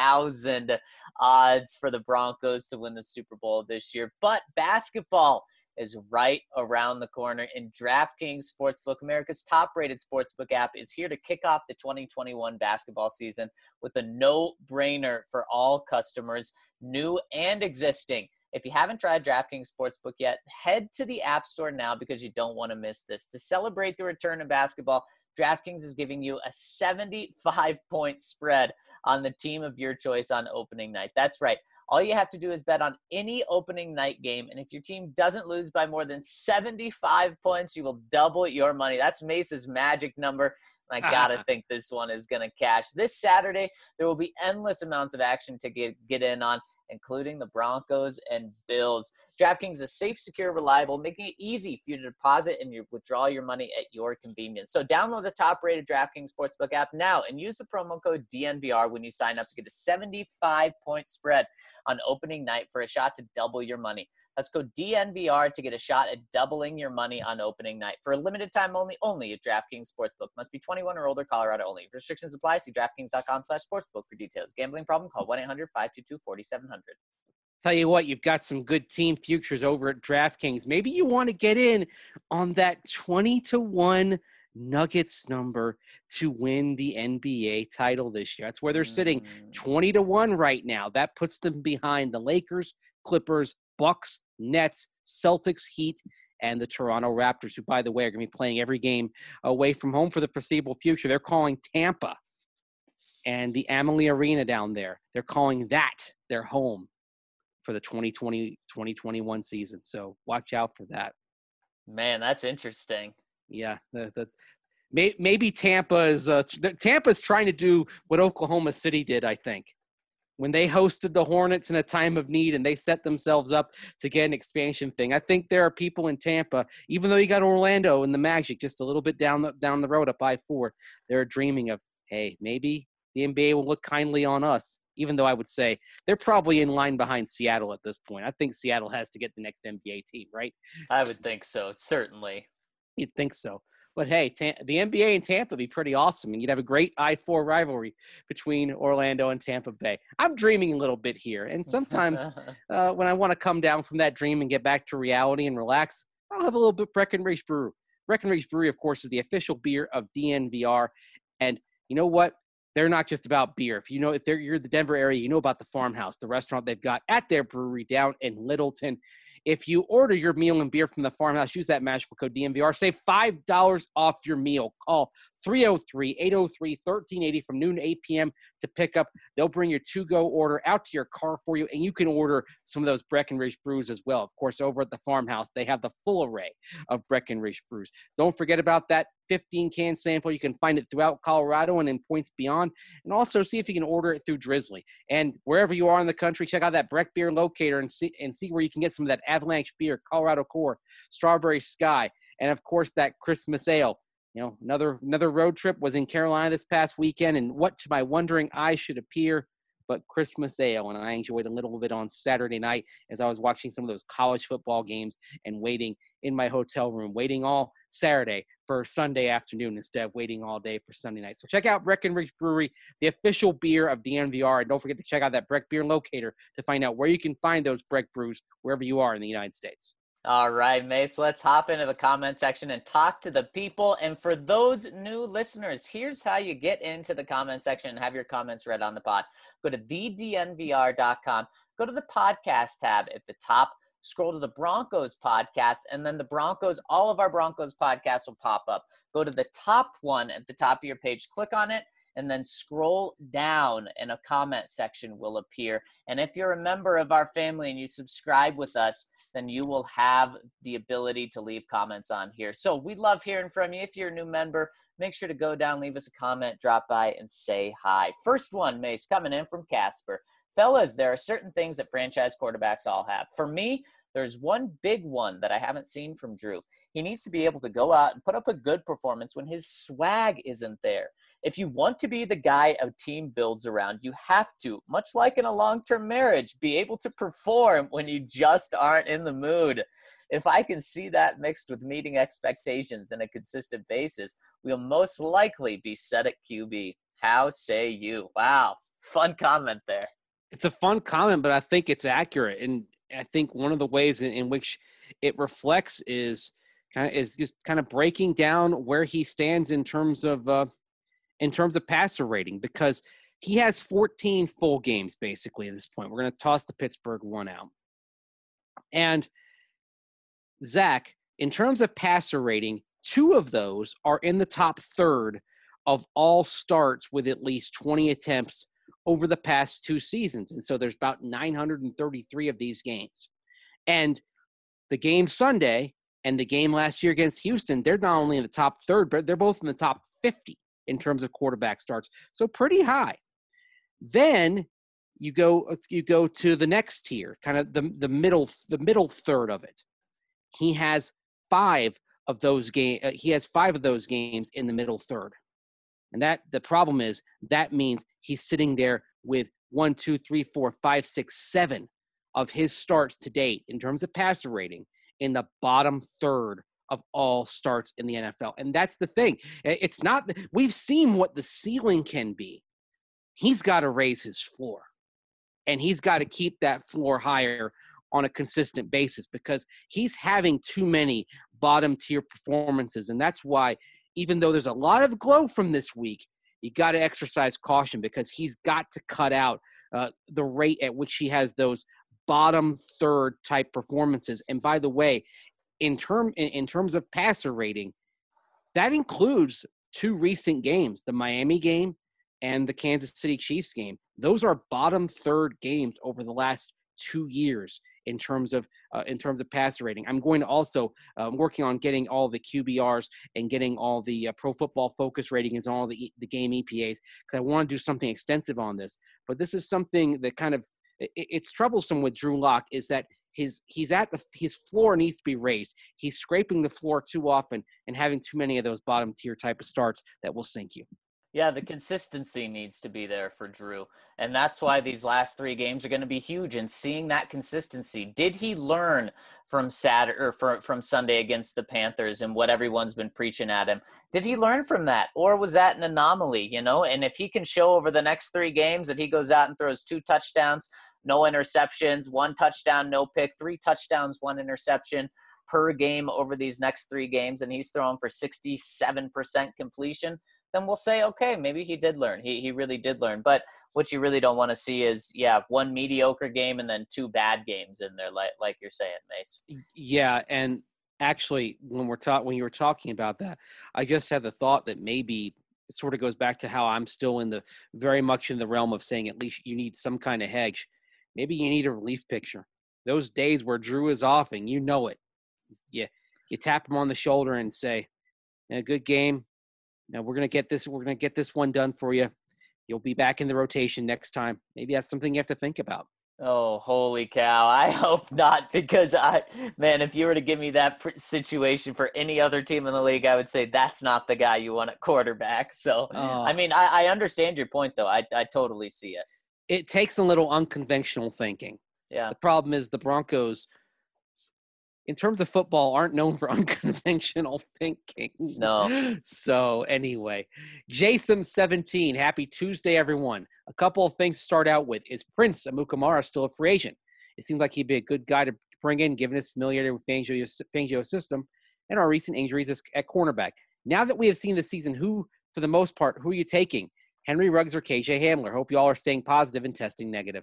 100,000 odds for the Broncos to win the Super Bowl this year, but basketball is right around the corner, and DraftKings Sportsbook, America's top-rated sportsbook app, is here to kick off the 2021 basketball season with a no-brainer for all customers, new and existing. If you haven't tried DraftKings Sportsbook yet, head to the App Store now because you don't want to miss this. To celebrate the return of basketball, DraftKings is giving you a 75-point spread on the team of your choice on opening night. That's right. All you have to do is bet on any opening night game, and if your team doesn't lose by more than 75 points, you will double your money. That's Mace's magic number. I gotta think this one is gonna cash. This Saturday, there will be endless amounts of action to get in on, including the Broncos and Bills. DraftKings is safe, secure, reliable, making it easy for you to deposit and withdraw your money at your convenience. So download the top-rated DraftKings Sportsbook app now and use the promo code DNVR when you sign up to get a 75-point spread on opening night for a shot to double your money. Let's go DNVR to get a shot at doubling your money on opening night. For a limited time only at DraftKings Sportsbook. Must be 21 or older, Colorado only. Restrictions apply. See DraftKings.com/sportsbook for details. Gambling problem? Call 1-800-522-4700. Tell you what, you've got some good team futures over at DraftKings. Maybe you want to get in on that 20-1 Nuggets number to win the NBA title this year. That's where they're sitting 20-1 right now. That puts them behind the Lakers, Clippers, Bucks, Nets, Celtics, Heat, and the Toronto Raptors, who, by the way, are going to be playing every game away from home for the foreseeable future. They're calling Tampa and the Amalie Arena down there. They're calling that their home for the 2020-2021 season. So watch out for that. Man, that's interesting. Yeah, maybe Tampa's trying to do what Oklahoma City did, I think, when they hosted the Hornets in a time of need and they set themselves up to get an expansion thing. I think there are people in Tampa, even though you got Orlando and the Magic just a little bit down the road up I-4, they're dreaming of, hey, maybe the NBA will look kindly on us, even though I would say they're probably in line behind Seattle at this point. I think Seattle has to get the next NBA team, right? I would think so, certainly. You'd think so. But, hey, the NBA and Tampa would be pretty awesome, and you'd have a great I-4 rivalry between Orlando and Tampa Bay. I'm dreaming a little bit here, and sometimes when I want to come down from that dream and get back to reality and relax, I'll have a little bit Breckenridge Brew. Breckenridge Brewery, of course, is the official beer of DNVR, and you know what? They're not just about beer. If you're in the Denver area, you know about the Farmhouse, the restaurant they've got at their brewery down in Littleton. If you order your meal and beer from the Farmhouse, use that magical code DNVR. Save $5 off your meal. Call 303-803-1380 from noon to 8 p.m. to pick up. They'll bring your to-go order out to your car for you, and you can order some of those Breckenridge brews as well. Of course, over at the Farmhouse, they have the full array of Breckenridge brews. Don't forget about that 15-can sample. You can find it throughout Colorado and in points beyond. And also see if you can order it through Drizzly. And wherever you are in the country, check out that Breck Beer Locator and see where you can get some of that Avalanche beer, Colorado Core, Strawberry Sky, and, of course, that Christmas Ale. You know, another road trip was in Carolina this past weekend, and what to my wondering eye should appear but Christmas Ale. And I enjoyed a little bit on Saturday night as I was watching some of those college football games and waiting in my hotel room, waiting all Saturday for Sunday afternoon instead of waiting all day for Sunday night. So check out Breckenridge Brewery, the official beer of DNVR, and don't forget to check out that Breck Beer Locator to find out where you can find those Breck brews wherever you are in the United States. All right, mates, let's hop into the comment section and talk to the people. And for those new listeners, here's how you get into the comment section and have your comments read on the pod. Go to thednvr.com, go to the podcast tab at the top, scroll to the Broncos podcast, and then the Broncos, all of our Broncos podcasts will pop up. Go to the top one at the top of your page, click on it, and then scroll down and a comment section will appear. And if you're a member of our family and you subscribe with us, then you will have the ability to leave comments on here. So we love hearing from you. If you're a new member, make sure to go down, leave us a comment, drop by, and say hi. First one, Mace, coming in from Casper. Fellas, there are certain things that franchise quarterbacks all have. For me, there's one big one that I haven't seen from Drew. He needs to be able to go out and put up a good performance when his swag isn't there. If you want to be the guy a team builds around, you have to, much like in a long-term marriage, be able to perform when you just aren't in the mood. If I can see that mixed with meeting expectations on a consistent basis, we'll most likely be set at QB. How say you? Wow, fun comment there. It's a fun comment, but I think it's accurate. And I think one of the ways in which it reflects is just kind of breaking down where he stands in terms of passer rating, because he has 14 full games basically at this point. We're going to toss the Pittsburgh one out. And Zach, in terms of passer rating, 2 of those are in the top third of all starts with at least 20 attempts over the past 2 seasons. And so there's about 933 of these games. And the game Sunday and the game last year against Houston, they're not only in the top third, but they're both in the top 50 in terms of quarterback starts. So pretty high. Then you go to the next tier, kind of the middle third of it. He has 5 of those games. He has 5 of those games in the middle third. And that the problem is that means he's sitting there with 1, 2, 3, 4, 5, 6, 7 of his starts to date in terms of passer rating in the bottom third of all starts in the NFL. And that's the thing. It's not – we've seen what the ceiling can be. He's got to raise his floor. And he's got to keep that floor higher on a consistent basis, because he's having too many bottom-tier performances. And that's why, even though there's a lot of glow from this week, you got to exercise caution, because he's got to cut out the rate at which he has those bottom third type performances. And by the way, in terms of passer rating, that includes 2 recent games, the Miami game and the Kansas City Chiefs game. Those are bottom third games over the last 2 years in terms of passer rating. I'm going to also working on getting all the QBRs and getting all the Pro Football Focus ratings and all the game EPAs, because I want to do something extensive on this. But this is something that kind of it's troublesome with Drew Lock, is that his floor needs to be raised. He's scraping the floor too often and having too many of those bottom tier type of starts that will sink you. Yeah, the consistency needs to be there for Drew. And that's why these last 3 games are going to be huge. And seeing that consistency, did he learn from from Sunday against the Panthers and what everyone's been preaching at him? Did he learn from that? Or was that an anomaly, And if he can show over the next 3 games that he goes out and throws 2 touchdowns, no interceptions, 1 touchdown, no pick, 3 touchdowns, 1 interception per game over these next 3 games, and he's throwing for 67% completion, then we'll say, okay, maybe he did learn. He really did learn. But what you really don't want to see is, 1 mediocre game and then 2 bad games in there, like you're saying, Mace. Yeah, and actually, when you were talking about that, I just had the thought that maybe it sort of goes back to how I'm still very much in the realm of saying at least you need some kind of hedge. Maybe you need a relief pitcher. Those days where Drew is off and you know it, you tap him on the shoulder and say, good game. Now we're going to get this one done for you. You'll be back in the rotation next time. Maybe that's something you have to think about. Oh, holy cow. I hope not, because if you were to give me that situation for any other team in the league, I would say that's not the guy you want at quarterback. So, I understand your point though. I totally see it. It takes a little unconventional thinking. Yeah. The problem is the Broncos, in terms of football, aren't known for unconventional thinking. No. So anyway, Jason17, happy Tuesday, everyone. A couple of things to start out with. Is Prince Amukamara still a free agent? It seems like he'd be a good guy to bring in, given his familiarity with Fangio's system and our recent injuries at cornerback. Now that we have seen the season, for the most part, who are you taking? Henry Ruggs or KJ Hamler? Hope you all are staying positive and testing negative.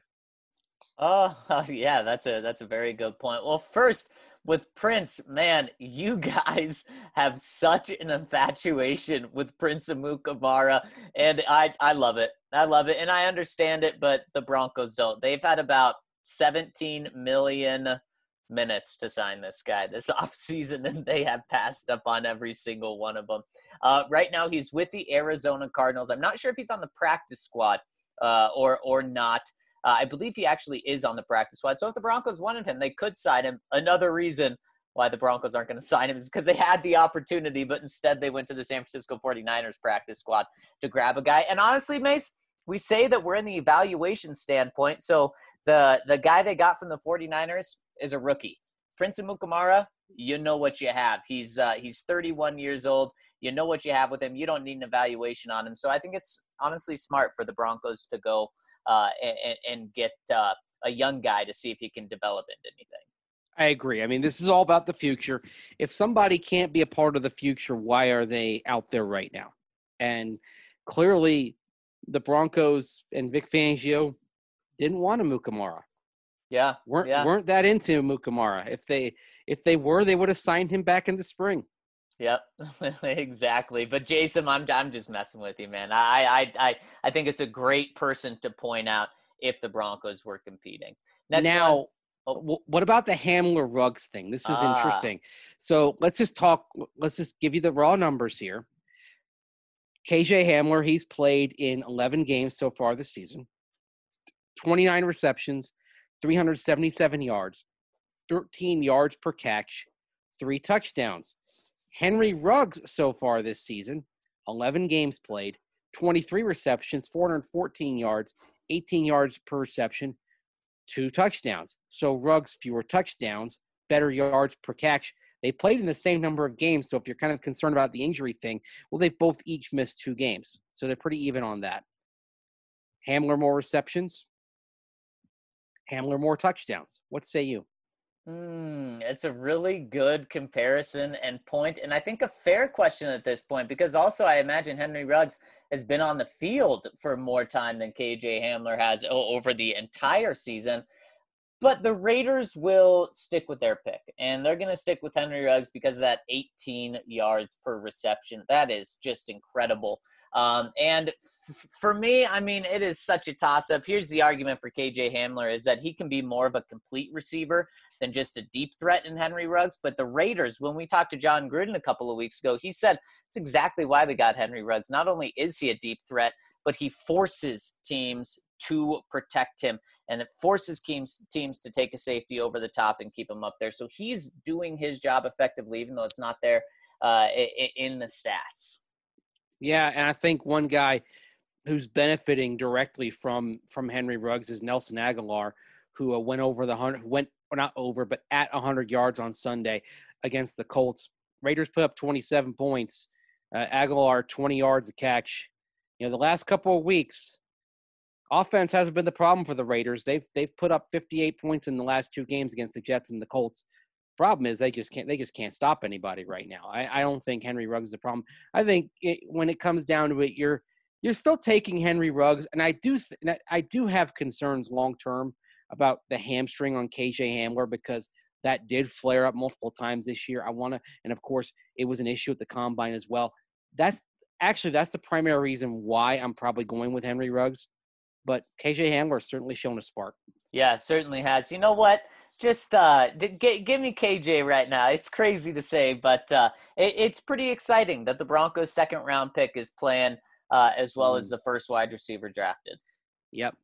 Yeah, that's a very good point. Well, first, with Prince, man, you guys have such an infatuation with Prince Amukamara, and I love it. I love it, and I understand it, but the Broncos don't. They've had about 17 million minutes to sign this guy this offseason, and they have passed up on every single one of them. Right now, he's with the Arizona Cardinals. I'm not sure if he's on the practice squad or not. I believe he actually is on the practice squad. So if the Broncos wanted him, they could sign him. Another reason why the Broncos aren't going to sign him is because they had the opportunity, but instead they went to the San Francisco 49ers practice squad to grab a guy. And honestly, Mace, we say that we're in the evaluation standpoint. So the guy they got from the 49ers is a rookie. Prince Amukamara, you know what you have. He's 31 years old. You know what you have with him. You don't need an evaluation on him. So I think it's honestly smart for the Broncos to go and get a young guy to see if he can develop into anything. I agree. I mean, this is all about the future. If somebody can't be a part of the future, why are they out there right now? And clearly, the Broncos and Vic Fangio didn't want a Mukamara. Yeah, weren't that into Mukamara. If they were, they would have signed him back in the spring. Yep, exactly. But Jason, I'm just messing with you, man. I think it's a great person to point out if the Broncos were competing. Next Now, one. Oh. what about the Hamler Ruggs thing? This is interesting. So let's just give you the raw numbers here. KJ Hamler, he's played in 11 games so far this season, 29 receptions, 377 yards, 13 yards per catch, 3 touchdowns. Henry Ruggs so far this season, 11 games played, 23 receptions, 414 yards, 18 yards per reception, 2 touchdowns. So Ruggs, fewer touchdowns, better yards per catch. They played in the same number of games, so if you're kind of concerned about the injury thing, well, they've both each missed 2 games. So they're pretty even on that. Hamler more receptions, Hamler more touchdowns. What say you? It's a really good comparison and point, and I think a fair question at this point, because also I imagine Henry Ruggs has been on the field for more time than KJ Hamler has over the entire season. But the Raiders will stick with their pick, and they're going to stick with Henry Ruggs because of that 18 yards per reception. That is just incredible. And for me, I mean, it is such a toss-up. Here's the argument for KJ Hamler is that he can be more of a complete receiver than just a deep threat in Henry Ruggs. But the Raiders, when we talked to John Gruden a couple of weeks ago, he said it's exactly why they got Henry Ruggs. Not only is he a deep threat, but he forces teams to protect him, and it forces teams to take a safety over the top and keep him up there. So he's doing his job effectively, even though it's not there in the stats. Yeah, and I think one guy who's benefiting directly from Henry Ruggs is Nelson Aguilar, who went over the 100, not over, but at 100 yards on Sunday against the Colts. Raiders put up 27 points. Aguilar 20 yards a catch. You know, the last couple of weeks, offense hasn't been the problem for the Raiders. They've put up 58 points in the last 2 games against the Jets and the Colts. Problem is they just can't stop anybody right now. I don't think Henry Ruggs is the problem. I think when it comes down to it, you're still taking Henry Ruggs, and I do have concerns long term about the hamstring on KJ Hamler because that did flare up multiple times this year. And of course it was an issue at the combine as well. That's the primary reason why I'm probably going with Henry Ruggs. But KJ Hamler has certainly shown a spark. Yeah, certainly has. You know what? Just give me KJ right now. It's crazy to say, but it's pretty exciting that the Broncos' second-round pick is playing as well as the first wide receiver drafted. Yep.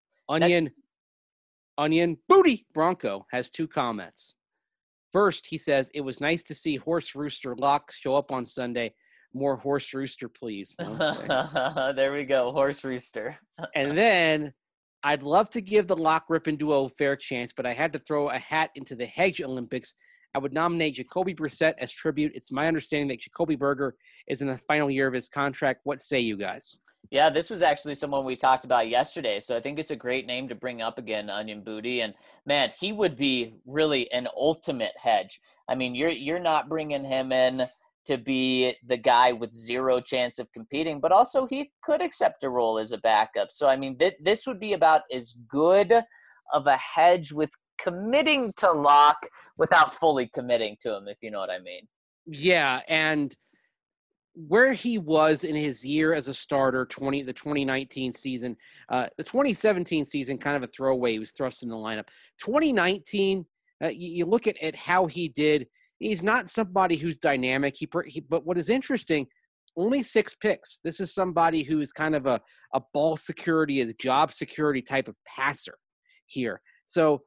Onion Booty Bronco has 2 comments. First, he says, it was nice to see Horse Rooster Locke show up on Sunday. More Horse Rooster, please. Okay. There we go, Horse Rooster. And then, I'd love to give the Locke Rippin duo a fair chance, but I had to throw a hat into the Hedge Olympics. I would nominate Jacoby Brissett as tribute. It's my understanding that Jacoby Berger is in the final year of his contract. What say you guys? Yeah, this was actually someone we talked about yesterday, so I think it's a great name to bring up again, Onion Booty. And, man, he would be really an ultimate hedge. I mean, you're not bringing him in to be the guy with zero chance of competing, but also he could accept a role as a backup. So, I mean, this would be about as good of a hedge with committing to Locke without fully committing to him, if you know what I mean. Yeah, and where he was in his year as a starter, the 2019 season, the 2017 season, kind of a throwaway. He was thrust in the lineup. 2019, you look at how he did. He's not somebody who's dynamic. But what is interesting, only 6 picks. This is somebody who is kind of a ball security, is job security type of passer here. So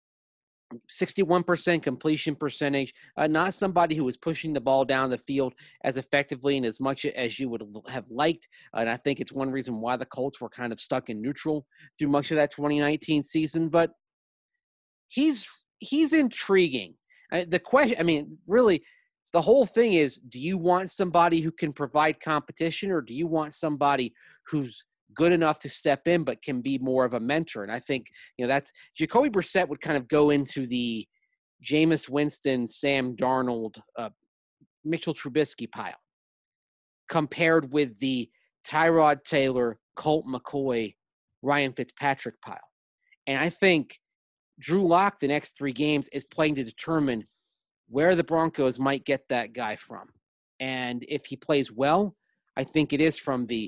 61% completion percentage, not somebody who was pushing the ball down the field as effectively and as much as you would have liked. And I think it's one reason why the Colts were kind of stuck in neutral through much of that 2019 season. But he's intriguing. The question, I mean, really, the whole thing is, do you want somebody who can provide competition, or do you want somebody who's good enough to step in but can be more of a mentor? And I think, that's Jacoby Brissett would kind of go into the Jameis Winston, Sam Darnold, Mitchell Trubisky pile compared with the Tyrod Taylor, Colt McCoy, Ryan Fitzpatrick pile. And I think Drew Lock the next 3 games is playing to determine where the Broncos might get that guy from. And if he plays well, I think it is from the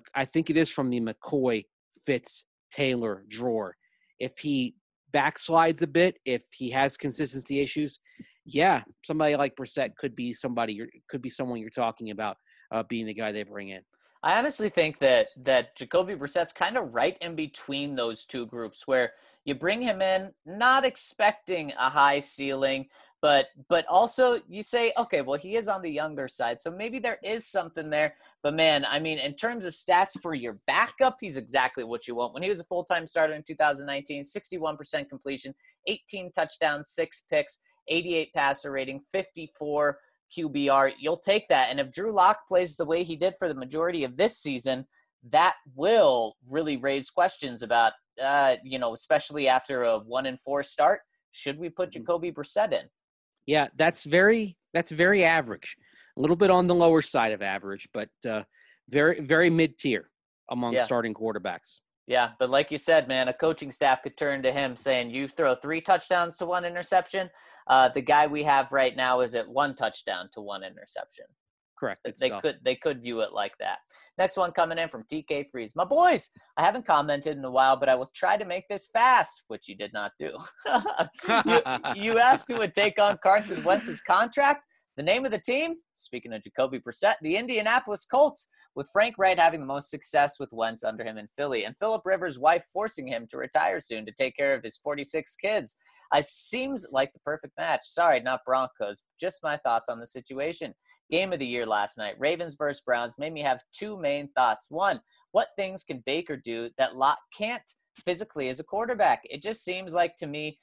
McCoy, Fitz, Taylor drawer. If he backslides a bit, if he has consistency issues, yeah, somebody like Brissett could be someone you're talking about being the guy they bring in. I honestly think that Jacoby Brissett's kind of right in between those two groups, where you bring him in not expecting a high ceiling, but also you say, okay, well, he is on the younger side, so maybe there is something there. But man, I mean, in terms of stats for your backup, he's exactly what you want. When he was a full-time starter in 2019, 61% completion, 18 touchdowns, 6 picks, 88 passer rating, 54 QBR. You'll take that. And if Drew Lock plays the way he did for the majority of this season, that will really raise questions about, especially after a 1-4 start, should we put Jacoby Brissett in? Yeah, that's very average. A little bit on the lower side of average, but very, very mid-tier among starting quarterbacks. Yeah, but like you said, man, a coaching staff could turn to him saying, you throw 3 touchdowns to 1 interception. The guy we have right now is at 1 touchdown to 1 interception. Correct. They could view it like that. Next one coming in from TK Freeze. My boys, I haven't commented in a while, but I will try to make this fast, which you did not do. you asked who would take on Carson Wentz's contract. The name of the team, speaking of Jacoby Brissett, the Indianapolis Colts, with Frank Wright having the most success with Wentz under him in Philly, and Phillip Rivers' wife forcing him to retire soon to take care of his 46 kids. Seems like the perfect match. Sorry, not Broncos. Just my thoughts on the situation. Game of the year last night, Ravens versus Browns, made me have 2 main thoughts. One, what things can Baker do that Locke can't physically as a quarterback? It just seems like to me,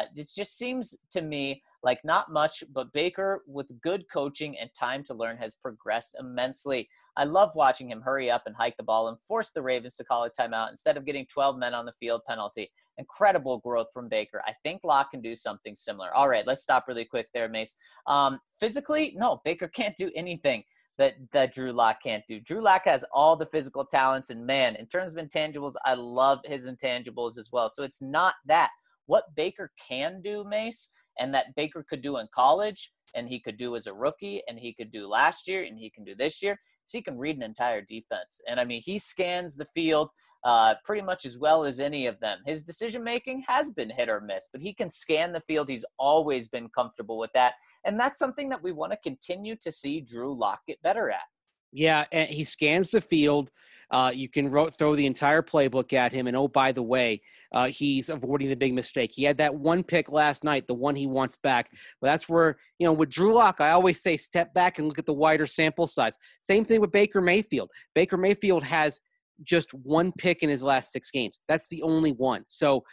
like not much, but Baker with good coaching and time to learn has progressed immensely. I love watching him hurry up and hike the ball and force the Ravens to call a timeout instead of getting 12 men on the field penalty. Incredible growth from Baker. I think Locke can do something similar. All right, let's stop really quick there, Mace. Physically, no, Baker can't do anything that Drew Lock can't do. Drew Lock has all the physical talents, and man, in terms of intangibles, I love his intangibles as well. So it's not that. What Baker can do, Mace, and that Baker could do in college, and he could do as a rookie, and he could do last year, and he can do this year, is he can read an entire defense. And I mean, he scans the field pretty much as well as any of them. His decision-making has been hit or miss, but he can scan the field. He's always been comfortable with that. And that's something that we want to continue to see Drew Lock get better at. Yeah, and he scans the field. You can throw the entire playbook at him. And, oh, by the way, he's avoiding the big mistake. He had that one pick last night, the one he wants back. But that's where, with Drew Lock, I always say step back and look at the wider sample size. Same thing with Baker Mayfield. Baker Mayfield has just 1 pick in his last 6 games. That's the only one. So,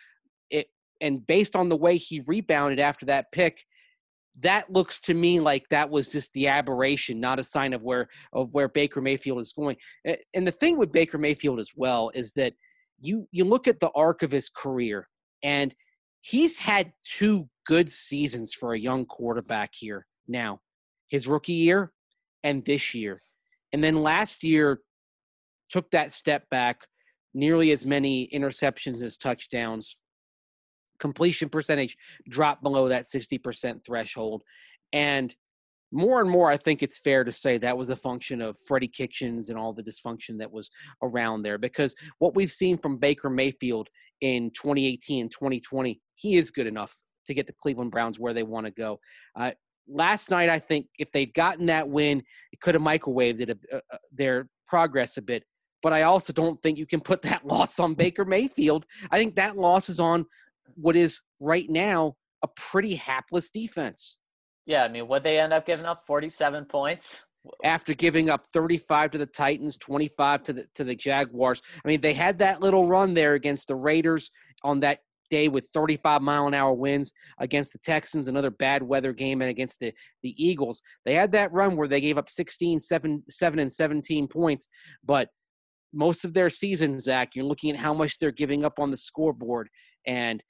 and based on the way he rebounded after that pick, that looks to me like that was just the aberration, not a sign of where Baker Mayfield is going. And the thing with Baker Mayfield as well is that you look at the arc of his career, and he's had 2 good seasons for a young quarterback here now, his rookie year and this year. And then last year took that step back, nearly as many interceptions as touchdowns. Completion percentage dropped below that 60% threshold. And more, I think it's fair to say that was a function of Freddie Kitchens and all the dysfunction that was around there. Because what we've seen from Baker Mayfield in 2018 and 2020, he is good enough to get the Cleveland Browns where they want to go. Last night, I think if they'd gotten that win, it could have microwaved their progress a bit. But I also don't think you can put that loss on Baker Mayfield. I think that loss is on what is right now a pretty hapless defense. Yeah, I mean, what they end up giving up, 47 points? After giving up 35 to the Titans, 25 to the Jaguars. I mean, they had that little run there against the Raiders on that day with 35-mile-an-hour winds, against the Texans, another bad weather game, and against the Eagles. They had that run where they gave up 16, 7, and 17 points, but most of their season, Zach, you're looking at how much they're giving up on the scoreboard, and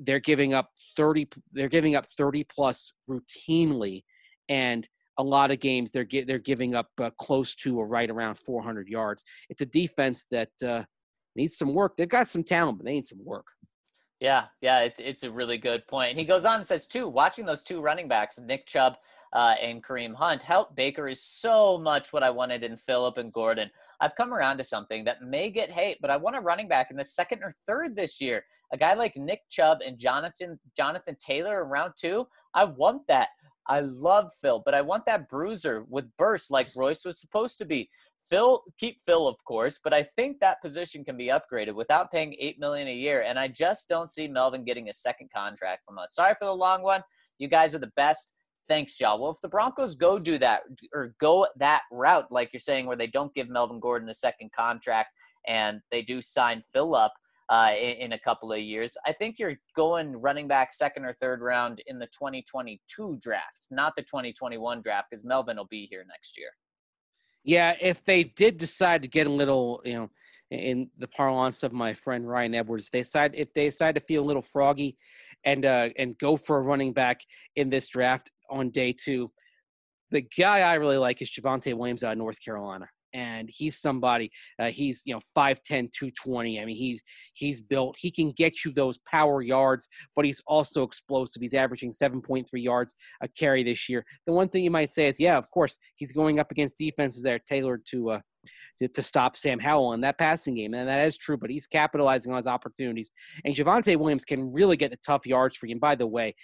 they're giving up 30. They're giving up 30 plus routinely, and a lot of games they're giving up close to or right around 400 yards. It's a defense that needs some work. They've got some talent, but they need some work. Yeah, it's a really good point. And he goes on and says, too, watching those two running backs, Nick Chubb and Kareem Hunt, help Baker is so much what I wanted in Phillip and Gordon. I've come around to something that may get hate, but I want a running back in the second or third this year. A guy like Nick Chubb and Jonathan Taylor in round 2, I want that. I love Phil, but I want that bruiser with burst like Royce was supposed to be. Keep Phil, of course, but I think that position can be upgraded without paying $8 million a year, and I just don't see Melvin getting a second contract from us. Sorry for the long one. You guys are the best. Thanks, y'all. Well, if the Broncos go do that or go that route, like you're saying, where they don't give Melvin Gordon a second contract and they do sign Phil up in a couple of years, I think you're going running back second or third round in the 2022 draft, not the 2021 draft, because Melvin will be here next year. Yeah, if they did decide to get a little, in the parlance of my friend Ryan Edwards, if they decide to feel a little froggy and go for a running back in this draft on day 2, the guy I really like is Javonte Williams out of North Carolina. And he's somebody, he's 5'10", 220. I mean, he's built. He can get you those power yards, but he's also explosive. He's averaging 7.3 yards a carry this year. The one thing you might say is, yeah, of course, he's going up against defenses that are tailored to stop Sam Howell in that passing game. And that is true, but he's capitalizing on his opportunities. And Javonte Williams can really get the tough yards for you. And by the way,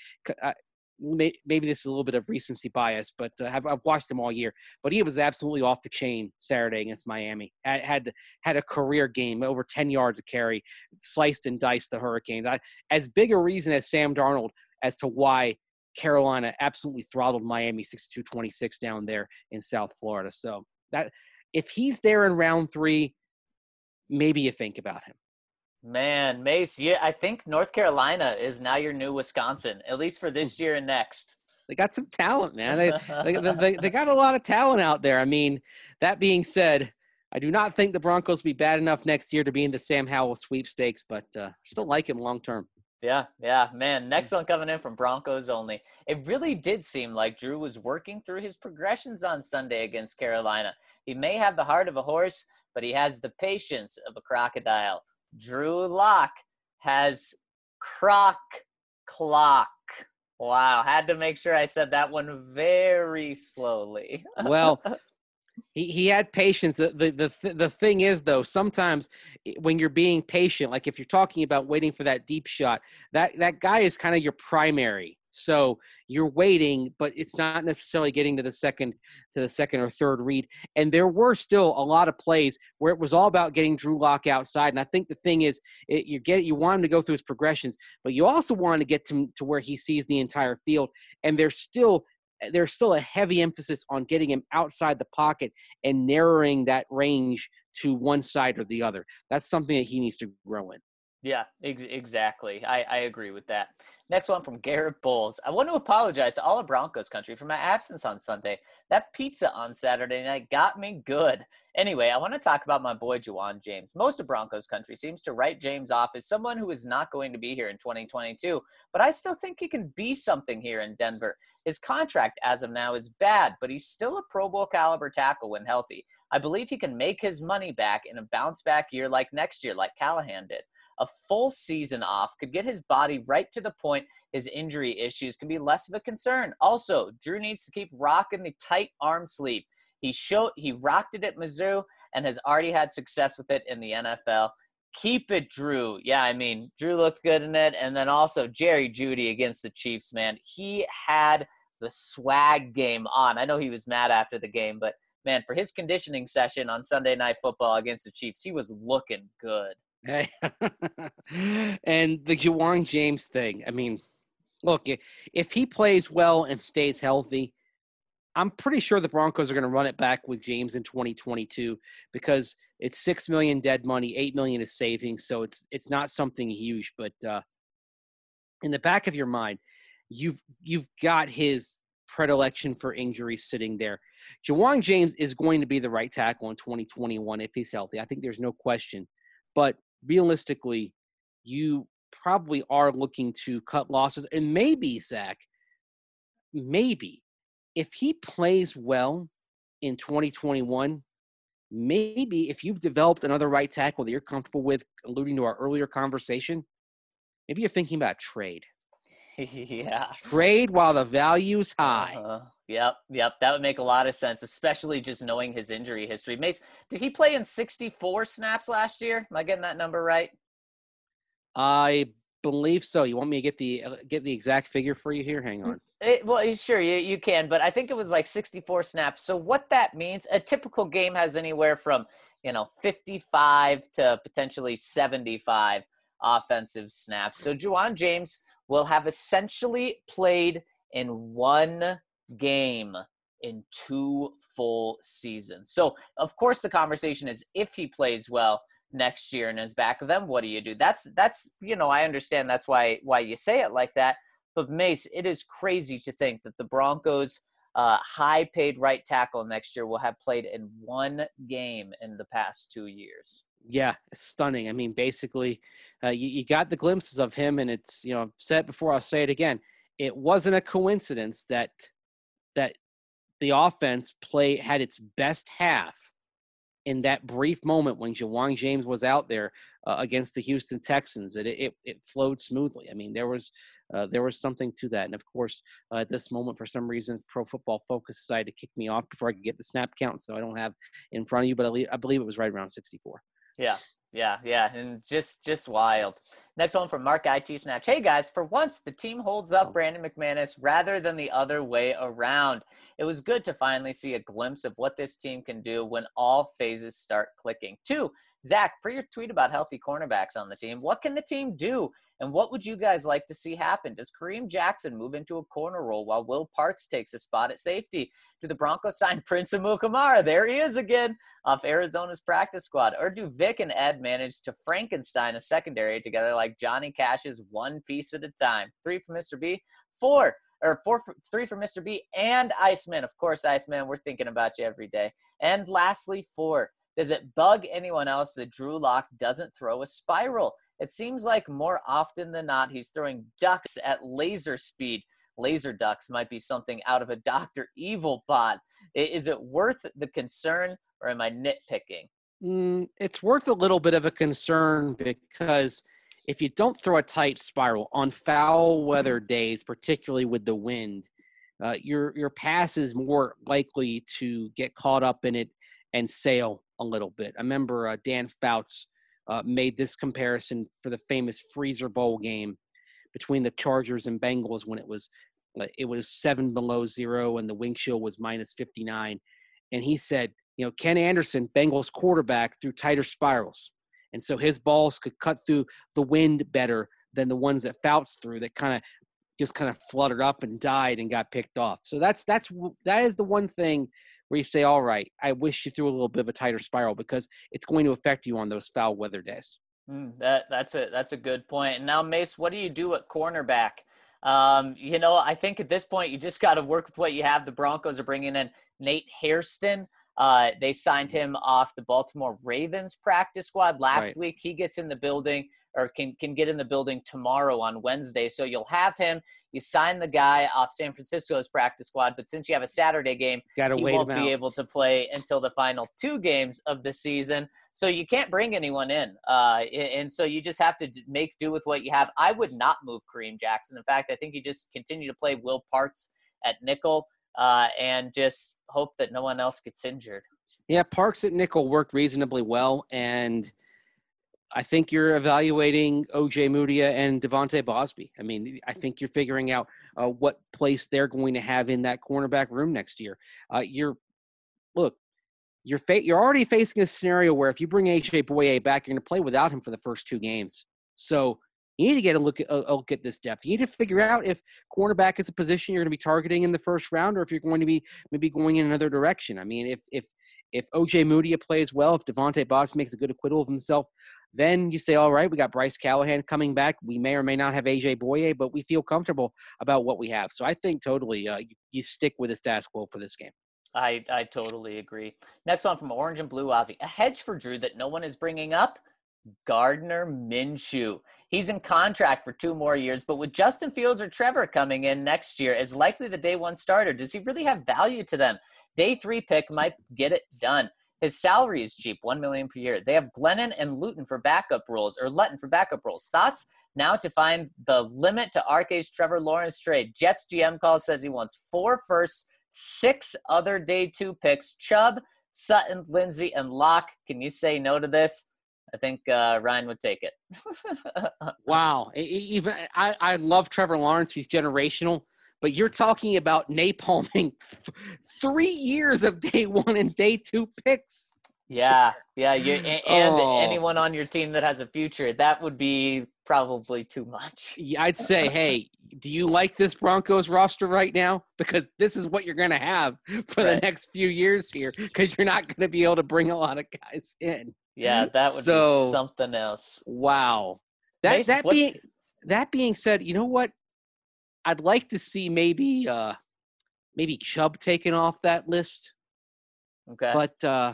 maybe this is a little bit of recency bias, but I've watched him all year. But he was absolutely off the chain Saturday against Miami. Had a career game, over 10 yards a carry, sliced and diced the Hurricanes. As big a reason as Sam Darnold as to why Carolina absolutely throttled Miami 62-26 down there in South Florida. So that if he's there in round 3, maybe you think about him. Man, Mace, I think North Carolina is now your new Wisconsin, at least for this year and next. They got some talent, man. They got a lot of talent out there. I mean, that being said, I do not think the Broncos will be bad enough next year to be in the Sam Howell sweepstakes, but still like him long term. Yeah, man. Next one coming in from Broncos only. It really did seem like Drew was working through his progressions on Sunday against Carolina. He may have the heart of a horse, but he has the patience of a crocodile. Drew Lock has croc clock. Wow, had to make sure I said that one very slowly. Well, he had patience. The thing is, though, sometimes when you're being patient, like if you're talking about waiting for that deep shot, that guy is kind of your primary. So you're waiting, but it's not necessarily getting to the second or third read. And there were still a lot of plays where it was all about getting Drew Lock outside. And I think the thing is, you want him to go through his progressions, but you also want to get to where he sees the entire field. And there's still a heavy emphasis on getting him outside the pocket and narrowing that range to one side or the other. That's something that he needs to grow in. Yeah, exactly. I agree with that. Next one from Garrett Bowles. I want to apologize to all of Broncos country for my absence on Sunday. That pizza on Saturday night got me good. Anyway, I want to talk about my boy Ja'Wuan James. Most of Broncos country seems to write James off as someone who is not going to be here in 2022, but I still think he can be something here in Denver. His contract as of now is bad, but he's still a Pro Bowl caliber tackle when healthy. I believe he can make his money back in a bounce back year like next year, like Callahan did. A full season off could get his body right to the point his injury issues can be less of a concern. Also, Drew needs to keep rocking the tight arm sleeve. He rocked it at Mizzou and has already had success with it in the NFL. Keep it, Drew. Yeah, I mean, Drew looked good in it. And then also Jerry Jeudy against the Chiefs, man. He had the swag game on. I know he was mad after the game, but man, for his conditioning session on Sunday Night Football against the Chiefs, he was looking good. Hey. And the Ja'Wuan James thing, I mean, look, if he plays well and stays healthy, I'm pretty sure the Broncos are going to run it back with James in 2022 because it's $6 million dead money, $8 million is savings, so it's not something huge. But in the back of your mind, you've got his predilection for injuries sitting there. Ja'Wuan James is going to be the right tackle in 2021 if he's healthy. I think there's no question. But realistically, you probably are looking to cut losses. And maybe, Zach, maybe if he plays well in 2021, maybe if you've developed another right tackle that you're comfortable with, alluding to our earlier conversation, maybe you're thinking about trade. Yeah. Trade while the value's high. Yep. That would make a lot of sense, especially just knowing his injury history. Mace, did he play in 64 snaps last year? Am I getting that number right? I believe so. You want me to get the exact figure for you here? Hang on. Well, sure, you can, but I think it was like 64 snaps. So what that means, a typical game has anywhere from, 55 to potentially 75 offensive snaps. So Juwan James will have essentially played in one game in 2 full seasons. So, of course, the conversation is if he plays well next year and is back, then what do you do? That's I understand that's why you say it like that. But, Mace, it is crazy to think that the Broncos' high-paid right tackle next year will have played in one game in the past 2 years. Yeah, it's stunning. I mean, basically, you got the glimpses of him, and it's, I've said it before, I'll say it again. It wasn't a coincidence that the offense had its best half in that brief moment when Juwan James was out there against the Houston Texans. It flowed smoothly. I mean, there was something to that. And, of course, at this moment, for some reason, Pro Football Focus decided to kick me off before I could get the snap count, so I don't have in front of you, but I believe it was right around 64. Yeah, and just wild. Next one from Mark IT Snatch. Hey guys, for once the team holds up Brandon McManus rather than the other way around. It was good to finally see a glimpse of what this team can do when all phases start clicking. 2, Zach, for your tweet about healthy cornerbacks on the team, what can the team do? And what would you guys like to see happen? Does Kareem Jackson move into a corner role while Will Parks takes a spot at safety? Do the Broncos sign Prince Amukamara? There he is again off Arizona's practice squad. Or do Vic and Ed manage to Frankenstein a secondary together like Johnny Cash's one piece at a time? 3 for Mr. B. 3 for Mr. B and Iceman. Of course, Iceman, we're thinking about you every day. And lastly, 4. Does it bug anyone else that Drew Lock doesn't throw a spiral? It seems like more often than not, he's throwing ducks at laser speed. Laser ducks might be something out of a Dr. Evil pod. Is it worth the concern, or am I nitpicking? It's worth a little bit of a concern because if you don't throw a tight spiral on foul weather days, particularly with the wind, your pass is more likely to get caught up in it and sail a little bit. I remember Dan Fouts made this comparison for the famous Freezer Bowl game between the Chargers and Bengals when it was 7 below zero and the wind chill was minus 59. And he said, Ken Anderson, Bengals quarterback, threw tighter spirals. And so his balls could cut through the wind better than the ones that Fouts threw that kind of fluttered up and died and got picked off. So that is the one thing where you say, all right, I wish you threw a little bit of a tighter spiral because it's going to affect you on those foul weather days. That's a good point. And now, Mace, what do you do at cornerback? I think at this point you just got to work with what you have. The Broncos are bringing in Nate Hairston. They signed him off the Baltimore Ravens practice squad last week. He gets in the building, or can get in the building tomorrow on Wednesday. So you'll have him. You sign the guy off San Francisco's practice squad, but since you have a Saturday game, he won't be able to play until the final 2 games of the season. So you can't bring anyone in. And so you just have to make do with what you have. I would not move Kareem Jackson. In fact, I think you just continue to play Will Parks at nickel and just hope that no one else gets injured. Yeah, Parks at nickel worked reasonably well, and I think you're evaluating O.J. Mudia and Devontae Bosby. I mean, I think you're figuring out what place they're going to have in that cornerback room next year. You're already facing a scenario where if you bring A.J. Boye back, you're going to play without him for the first 2 games. So you need to get a look at this depth. You need to figure out if cornerback is a position you're going to be targeting in the first round, or if you're going to be maybe going in another direction. I mean, if O.J. Mudia plays well, if Devontae Bosby makes a good acquittal of himself, then you say, all right, we got Bryce Callahan coming back. We may or may not have A.J. Boye, but we feel comfortable about what we have. So I think totally you stick with the status quo for this game. I totally agree. Next one from Orange and Blue Ozzy. A hedge for Drew that no one is bringing up. Gardner Minshew. He's in contract for 2 more years, but with Justin Fields or Trevor coming in next year as likely the day 1 starter, does he really have value to them? Day 3 pick might get it done. His salary is cheap, $1 million per year. They have Glennon and Luton for backup roles, or Lutton for backup roles. Thoughts? Now to find the limit to RK's Trevor Lawrence trade. Jets GM call says he wants 4 firsts, 6 other day 2 picks. Chubb, Sutton, Lindsey, and Locke. Can you say no to this? I think Ryan would take it. Wow. Even I love Trevor Lawrence. He's generational. But you're talking about napalming 3 years of day 1 and day 2 picks. Yeah. And anyone on your team that has a future, that would be probably too much. Yeah, I'd say, hey, do you like this Broncos roster right now? Because this is what you're going to have for the next few years here, because you're not going to be able to bring a lot of guys in. Yeah, that would be something else. Wow. Mace, That being said, you know what? I'd like to see maybe Chubb taken off that list. Okay. But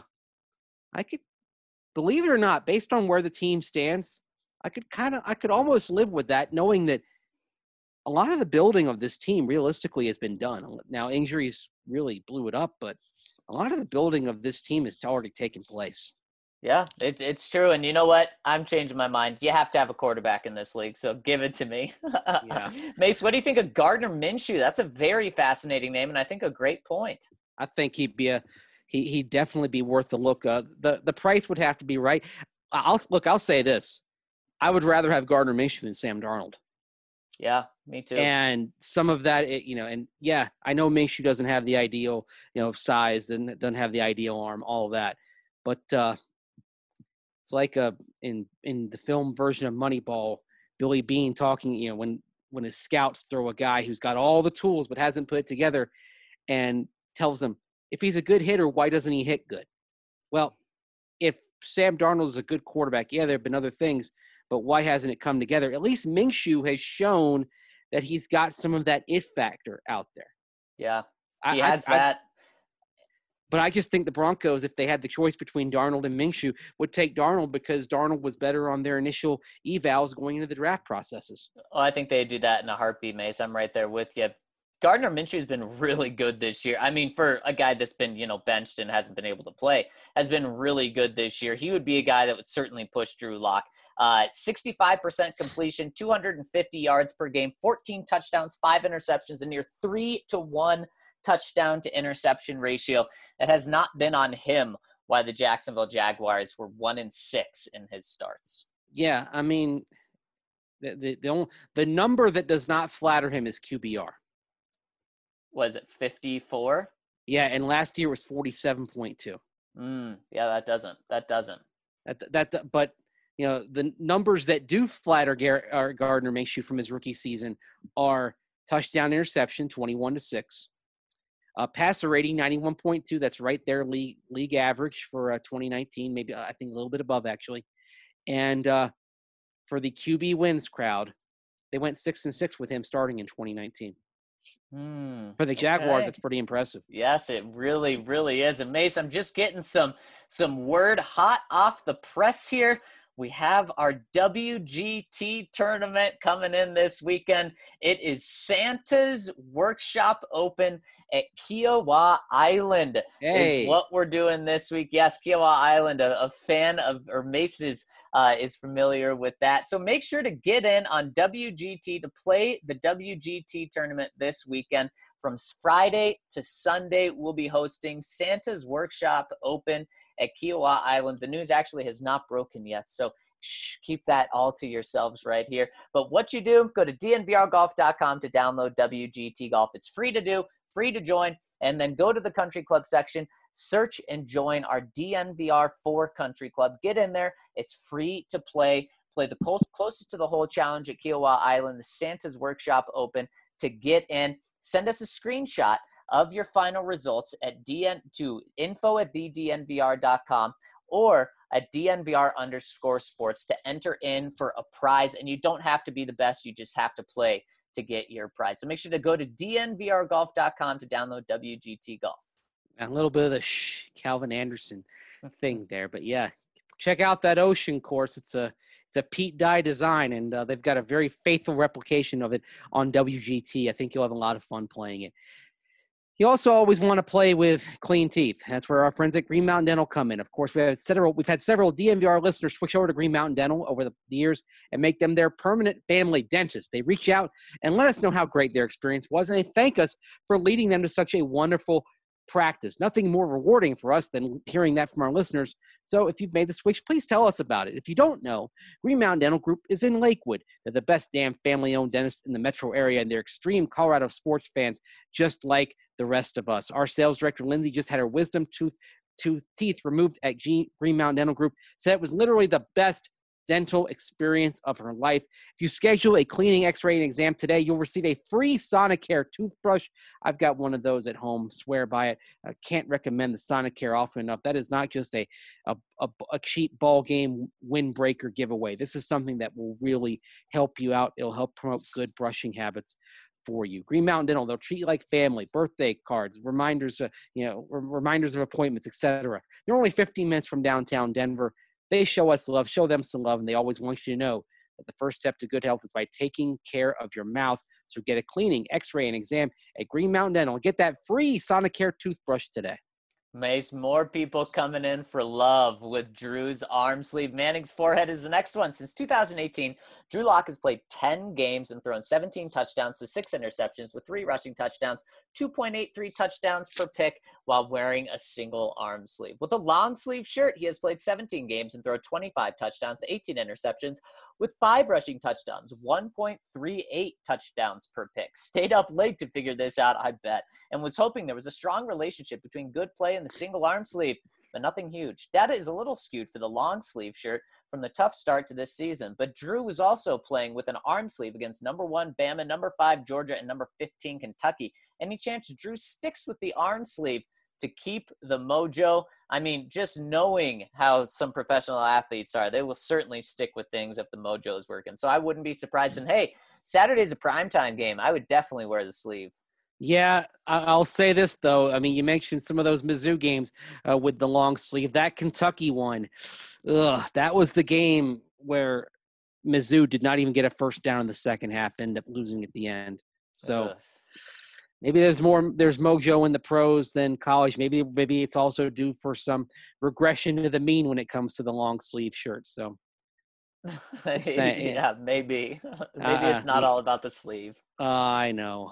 I could, believe it or not, based on where the team stands, I could almost live with that, knowing that a lot of the building of this team realistically has been done. Now, injuries really blew it up, but a lot of the building of this team has already taken place. Yeah, it's true. And you know what? I'm changing my mind. You have to have a quarterback in this league, so give it to me. Yeah. Mace, what do you think of Gardner Minshew? That's a very fascinating name, and I think a great point. I think he'd definitely be worth a look. The price would have to be right. I'll say this. I would rather have Gardner Minshew than Sam Darnold. Yeah, me too. And some of that, I know Minshew doesn't have the ideal, size, doesn't have the ideal arm, all of that. But it's like in the film version of Moneyball, Billy Beane talking, when his scouts throw a guy who's got all the tools but hasn't put it together, and tells them, if he's a good hitter, why doesn't he hit good? Well, if Sam Darnold is a good quarterback, there have been other things, but why hasn't it come together? At least Minshew has shown that he's got some of that it factor out there. Yeah, he has that. But I just think the Broncos, if they had the choice between Darnold and Minshew, would take Darnold because Darnold was better on their initial evals going into the draft processes. Oh, I think they'd do that in a heartbeat, Mace. I'm right there with you. Gardner Minshew's been really good this year. I mean, for a guy that's been, benched and hasn't been able to play, has been really good this year. He would be a guy that would certainly push Drew Lock. 65% completion, 250 yards per game, 14 touchdowns, 5 interceptions, and near 3-to-1 touchdown to interception ratio. That has not been on him why the Jacksonville Jaguars were 1-6 in his starts. Yeah, I mean, the number that does not flatter him is QBR. Was it 54? Yeah, and last year was 47.2. Yeah, that doesn't. But the numbers that do flatter Gardner Minshew from his rookie season are touchdown interception 21-6, passer rating 91.2. That's right there, league average for 2019. Maybe I think a little bit above actually. And for the QB wins crowd, they went 6-6 with him starting in 2019. For the Jaguars, It's pretty impressive. Yes, it really, really is. And Mace, I'm just getting some word hot off the press here. We have our WGT tournament coming in this weekend. It is Santa's Workshop Open at Kiawah Island is what we're doing this week. Yes, Kiawah Island, a fan of, or Mace is familiar with that. So make sure to get in on WGT to play the WGT tournament this weekend. From Friday to Sunday, we'll be hosting Santa's Workshop Open at Kiawah Island. The news actually has not broken yet, so keep that all to yourselves right here. But what you do, go to dnvrgolf.com to download WGT Golf. It's free to do, free to join, and then go to the country club section, search and join our DNVR 4 country club. Get in there. It's free to play. Play the closest to the hole challenge at Kiawah Island, the Santa's Workshop Open. To get in, send us a screenshot of your final results to info@thednvr.com or at DNVR_sports to enter in for a prize. And you don't have to be the best. You just have to play to get your prize. So make sure to go to dnvrgolf.com to download WGT Golf. A little bit of the Calvin Anderson thing there. But yeah, check out that Ocean course. It's a Pete Dye design, and they've got a very faithful replication of it on WGT. I think you'll have a lot of fun playing it. You also always want to play with clean teeth. That's where our friends at Green Mountain Dental come in. Of course, we've had several DMVR listeners switch over to Green Mountain Dental over the years and make them their permanent family dentist. They reach out and let us know how great their experience was, and they thank us for leading them to such a wonderful practice. Nothing more rewarding for us than hearing that from our listeners. So if you've made the switch, please tell us about it. If you don't know, Green Mountain Dental Group is in Lakewood. They're the best damn family-owned dentist in the metro area, and they're extreme Colorado sports fans, just like the rest of us. Our sales director, Lindsay, just had her wisdom teeth removed at Green Mountain Dental Group. Said it was literally the best dental experience of her life. If you schedule a cleaning, x-ray, and exam today, you'll receive a free Sonicare toothbrush. I've got one of those at home. Swear by it. I can't recommend the Sonicare often enough. That is not just a cheap ball game windbreaker giveaway. This is something that will really help you out. It'll help promote good brushing habits for you. Green Mountain Dental, they'll treat you like family, birthday cards, reminders of appointments, etc. They're only 15 minutes from downtown Denver. They show us love, show them some love, and they always want you to know that the first step to good health is by taking care of your mouth. So get a cleaning, x-ray, and exam at Green Mountain Dental. Get that free Sonicare toothbrush today. Mace, more people coming in for love with Drew's arm sleeve. Manning's forehead is the next one. Since 2018, Drew Lock has played 10 games and thrown 17 touchdowns to 6 interceptions with 3 rushing touchdowns, 2.83 touchdowns per pick while wearing a single arm sleeve. With a long sleeve shirt, he has played 17 games and thrown 25 touchdowns to 18 interceptions with 5 rushing touchdowns, 1.38 touchdowns per pick. Stayed up late to figure this out, I bet, and was hoping there was a strong relationship between good play and the single arm sleeve, but nothing huge. Data is a little skewed for the long sleeve shirt from the tough start to this season, but Drew was also playing with an arm sleeve against number 1 Bama, number 5 Georgia, and number 15 Kentucky. Any chance Drew sticks with the arm sleeve to keep the mojo? I mean, just knowing how some professional athletes are, they will certainly stick with things if the mojo is working. So I wouldn't be surprised. And hey, Saturday's a primetime game. I would definitely wear the sleeve. Yeah, I'll say this, though. I mean, you mentioned some of those Mizzou games with the long sleeve. That Kentucky one, that was the game where Mizzou did not even get a first down in the second half, ended up losing at the end. So maybe there's mojo in the pros than college. Maybe it's also due for some regression to the mean when it comes to the long sleeve shirts. So. Yeah, maybe it's not all about the sleeve. I know.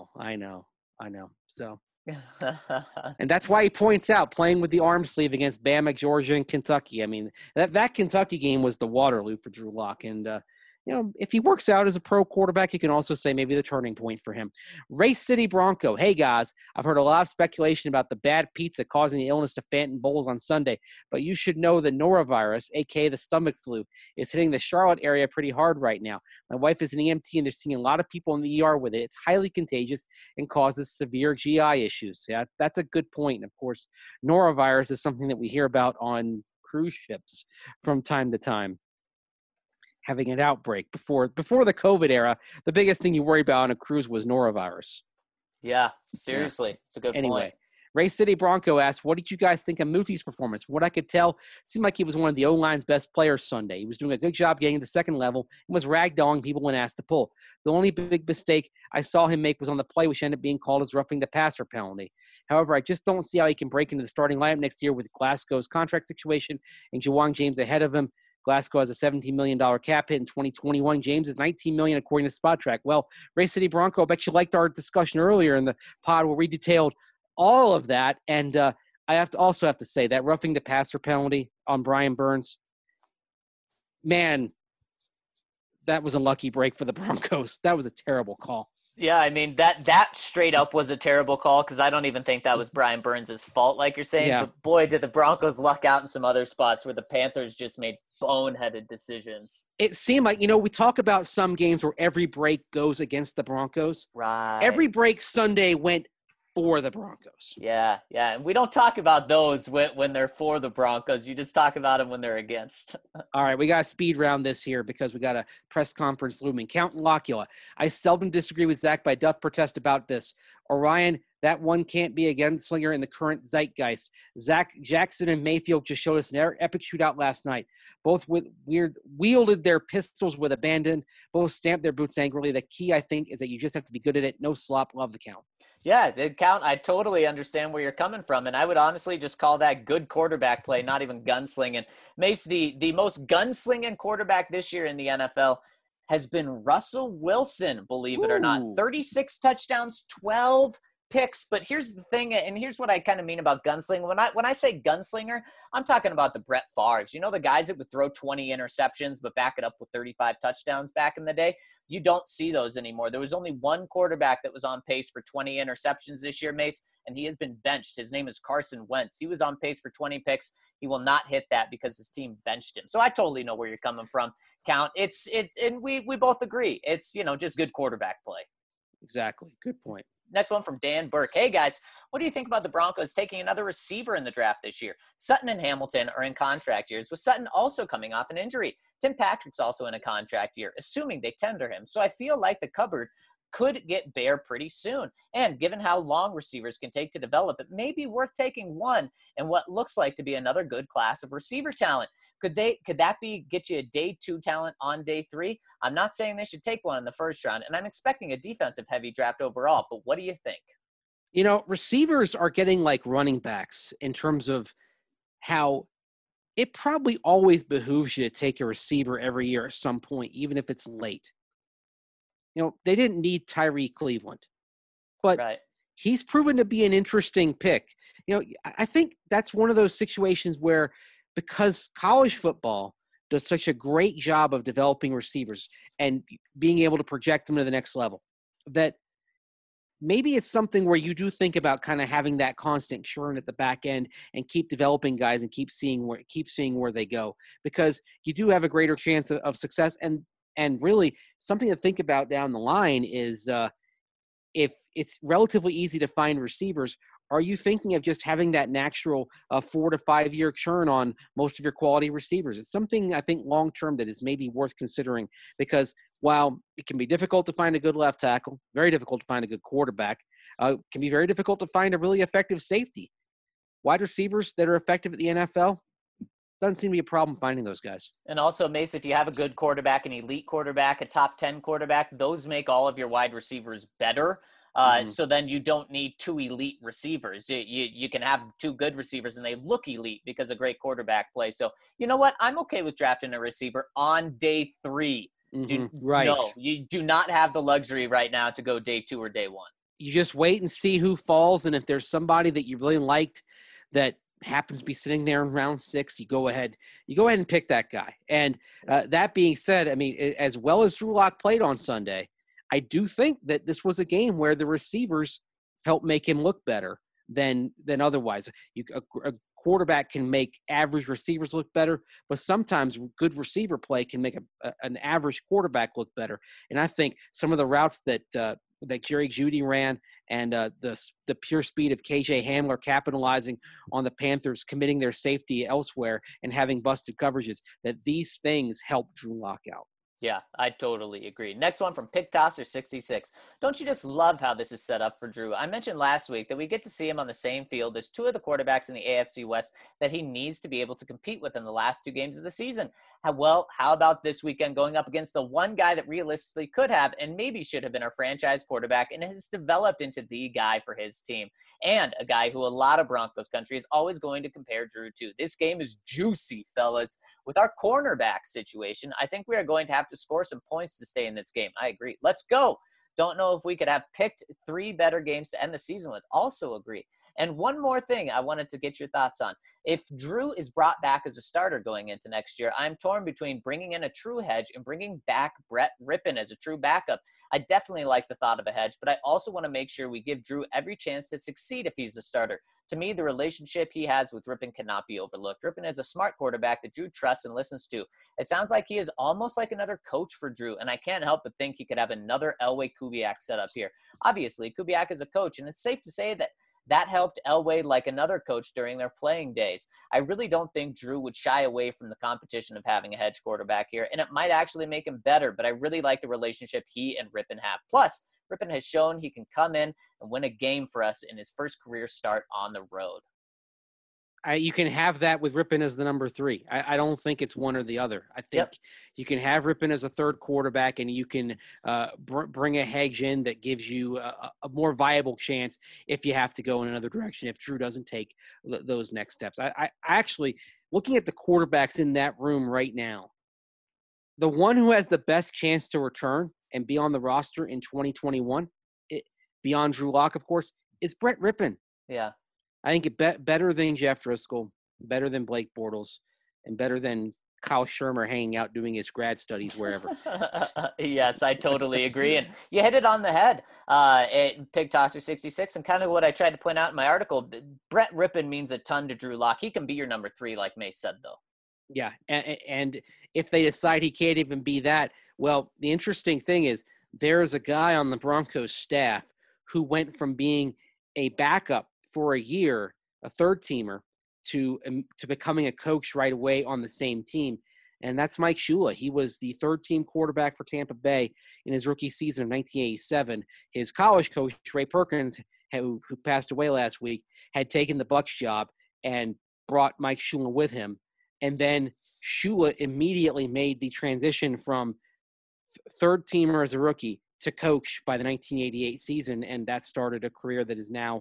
So, and that's why he points out playing with the arm sleeve against Bama, Georgia, and Kentucky. I mean, that Kentucky game was the Waterloo for Drew Lock, and if he works out as a pro quarterback, you can also say maybe the turning point for him. Race City Bronco. Hey, guys, I've heard a lot of speculation about the bad pizza causing the illness to Phantom Bowls on Sunday, but you should know the norovirus, a.k.a. the stomach flu, is hitting the Charlotte area pretty hard right now. My wife is an EMT, and they're seeing a lot of people in the ER with it. It's highly contagious and causes severe GI issues. Yeah, that's a good point. And, of course, norovirus is something that we hear about on cruise ships from time to time. Having an outbreak before the COVID era, the biggest thing you worry about on a cruise was norovirus. Yeah, seriously. It's a good point. Race City Bronco asked, what did you guys think of Muti's performance? From what I could tell, it seemed like he was one of the O-line's best players Sunday. He was doing a good job getting to the second level and was ragdolling people when asked to pull. The only big mistake I saw him make was on the play, which ended up being called as roughing the passer penalty. However, I just don't see how he can break into the starting lineup next year with Glasgow's contract situation and Jawang James ahead of him. Glasgow has a $17 million cap hit in 2021. James is $19 million according to Spot Track. Well, Race City Bronco, I bet you liked our discussion earlier in the pod where we detailed all of that. And I also have to say that roughing the passer penalty on Brian Burns, man, that was a lucky break for the Broncos. That was a terrible call. Yeah, I mean, that straight up was a terrible call because I don't even think that was Brian Burns' fault, like you're saying. Yeah. But boy, did the Broncos luck out in some other spots where the Panthers just made boneheaded decisions. It seemed like, we talk about some games where every break goes against the Broncos. Right. Every break Sunday went for the Broncos. Yeah. And we don't talk about those when they're for the Broncos. You just talk about them when they're against. All right, we got to speed round this here because we got a press conference looming. Count Lockula. I seldom disagree with Zach, but I doth protest about this. Orion that one can't be a gunslinger in the current zeitgeist. Zach Jackson and Mayfield just showed us an epic shootout last night. Both wielded their pistols with abandon. Both stamped their boots angrily. The key, I think, is that you just have to be good at it. No slop. Love the count. Yeah, the count, I totally understand where you're coming from. And I would honestly just call that good quarterback play, not even gunslinging. Mace, the most gunslinging quarterback this year in the NFL has been Russell Wilson, believe it or not. 36 touchdowns, 12 picks. But here's the thing, and here's what I kind of mean about gunslinger. When I say gunslinger, I'm talking about the Brett Favres. You know, the guys that would throw 20 interceptions but back it up with 35 touchdowns back in the day? You don't see those anymore. There was only one quarterback that was on pace for 20 interceptions this year, Mace, and he has been benched. His name is Carson Wentz. He was on pace for 20 picks. He will not hit that because his team benched him. So I totally know where you're coming from, Count. And we both agree. It's, you know, just good quarterback play. Exactly. Good point. Next one from Dan Burke. Hey, guys, what do you think about the Broncos taking another receiver in the draft this year? Sutton and Hamilton are in contract years, with Sutton also coming off an injury. Tim Patrick's also in a contract year, assuming they tender him. So I feel like the cupboard could get bare pretty soon. And given how long receivers can take to develop, it may be worth taking one in what looks like to be another good class of receiver talent. Could that get you a day 2 talent on day 3? I'm not saying they should take one in the first round, and I'm expecting a defensive heavy draft overall, but what do you think? You know, receivers are getting like running backs in terms of how it probably always behooves you to take a receiver every year at some point, even if it's late. You know, they didn't need Tyree Cleveland, but Right. He's proven to be an interesting pick. You know, I think that's one of those situations where, because college football does such a great job of developing receivers and being able to project them to the next level, that maybe it's something where you do think about kind of having that constant churn at the back end and keep developing guys and keep seeing where they go, because you do have a greater chance of success. And really something to think about down the line is if it's relatively easy to find receivers, are you thinking of just having that natural 4 to 5 year churn on most of your quality receivers? It's something I think long-term that is maybe worth considering, because while it can be difficult to find a good left tackle, very difficult to find a good quarterback, can be very difficult to find a really effective safety. Wide receivers that are effective at the NFL, doesn't seem to be a problem finding those guys. And also, Mace, if you have a good quarterback, an elite quarterback, a top 10 quarterback, those make all of your wide receivers better. So then you don't need 2 elite receivers. You can have 2 good receivers and they look elite because of great quarterback play. So you know what? I'm okay with drafting a receiver on day 3. Right. No, you do not have the luxury right now to go day 2 or day 1. You just wait and see who falls. And if there's somebody that you really liked that happens to be sitting there in round 6, you go ahead and pick that guy. And that being said, I mean, as well as Drew Lock played on Sunday, I do think that this was a game where the receivers helped make him look better than otherwise. A quarterback can make average receivers look better, but sometimes good receiver play can make an average quarterback look better. And I think some of the routes that Jerry Jeudy ran and the pure speed of KJ Hamler capitalizing on the Panthers committing their safety elsewhere and having busted coverages, that these things help Drew Lock out. Yeah, I totally agree. Next one from Pick Tosser 66. Don't you just love how this is set up for Drew? I mentioned last week that we get to see him on the same field as 2 of the quarterbacks in the AFC West that he needs to be able to compete with in the last 2 games of the season. How about this weekend going up against the one guy that realistically could have and maybe should have been our franchise quarterback and has developed into the guy for his team, and a guy who a lot of Broncos country is always going to compare Drew to. This game is juicy, fellas. With our cornerback situation, I think we are going to have to score some points to stay in this game. I agree. Let's go. Don't know if we could have picked 3 better games to end the season with. Also agree. And one more thing I wanted to get your thoughts on. If Drew is brought back as a starter going into next year, I'm torn between bringing in a true hedge and bringing back Brett Rippon as a true backup. I definitely like the thought of a hedge, but I also want to make sure we give Drew every chance to succeed if he's a starter. To me, the relationship he has with Rippon cannot be overlooked. Rippon is a smart quarterback that Drew trusts and listens to. It sounds like he is almost like another coach for Drew, and I can't help but think he could have another Elway Kubiak set up here. Obviously, Kubiak is a coach, and it's safe to say that helped Elway like another coach during their playing days. I really don't think Drew would shy away from the competition of having a hedge quarterback here, and it might actually make him better, but I really like the relationship he and Rippon have. Plus, Rippon has shown he can come in and win a game for us in his first career start on the road. You can have that with Rippon as the number 3. I don't think it's one or the other. I think you can have Rippon as a third quarterback, and you can bring a Hedge in that gives you a more viable chance if you have to go in another direction, if Drew doesn't take those next steps. I actually, looking at the quarterbacks in that room right now, the one who has the best chance to return and be on the roster in 2021, beyond Drew Lock, of course, is Brett Rippon. Yeah. I think better than Jeff Driscoll, better than Blake Bortles, and better than Kyle Shermer hanging out doing his grad studies wherever. Yes, I totally agree. And you hit it on the head at Pig Tosser 66. And kind of what I tried to point out in my article, Brett Rippon means a ton to Drew Lock. He can be your number 3, like May said, though. Yeah, and if they decide he can't even be that, well, the interesting thing is there's a guy on the Broncos staff who went from being a backup for a year, a third-teamer, to becoming a coach right away on the same team, and that's Mike Shula. He was the third-team quarterback for Tampa Bay in his rookie season of 1987. His college coach, Ray Perkins, who passed away last week, had taken the Bucs job and brought Mike Shula with him, and then Shula immediately made the transition from third-teamer as a rookie to coach by the 1988 season, and that started a career that is now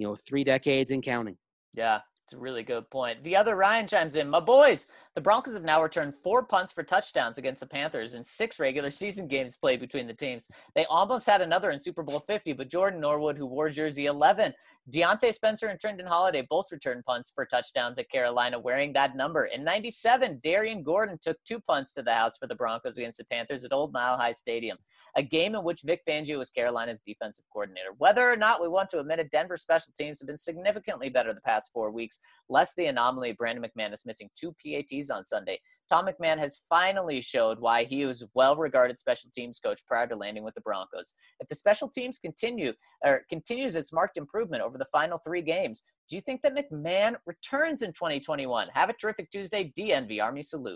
3 decades and counting. Yeah, it's a really good point. The other Ryan chimes in. My boys, the Broncos have now returned 4 punts for touchdowns against the Panthers in 6 regular season games played between the teams. They almost had another in Super Bowl 50, but Jordan Norwood, who wore jersey 11, Deontay Spencer and Trenton Holiday both returned punts for touchdowns at Carolina wearing that number. In 97, Darian Gordon took 2 punts to the house for the Broncos against the Panthers at Old Mile High Stadium, a game in which Vic Fangio was Carolina's defensive coordinator. Whether or not we want to admit it, Denver's special teams have been significantly better the past 4 weeks, less the anomaly of Brandon McManus missing 2 PATs on Sunday. Tom McMahon has finally showed why he was a well-regarded special teams coach prior to landing with the Broncos. If the special teams continues its marked improvement over the final 3 games, do you think that McMahon returns in 2021? Have a terrific Tuesday. DNV Army salute.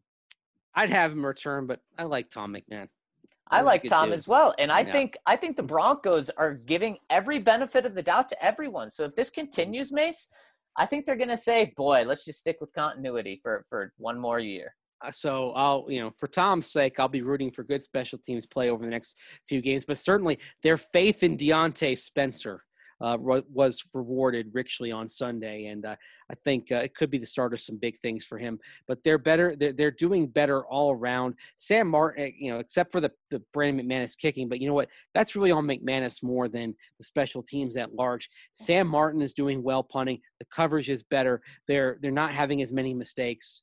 I'd have him return, but I like Tom McMahon. I like Tom as well. And I think the Broncos are giving every benefit of the doubt to everyone. So if this continues, Mace, I think they're going to say, boy, let's just stick with continuity for 1 more year. So I'll, for Tom's sake, I'll be rooting for good special teams play over the next few games. But certainly their faith in Deontay Spencer was rewarded richly on Sunday. And I think it could be the start of some big things for him. But they're better. They're doing better all around. Sam Martin, except for the Brandon McManus kicking. But you know what? That's really on McManus more than the special teams at large. Sam Martin is doing well punting. The coverage is better. They're not having as many mistakes.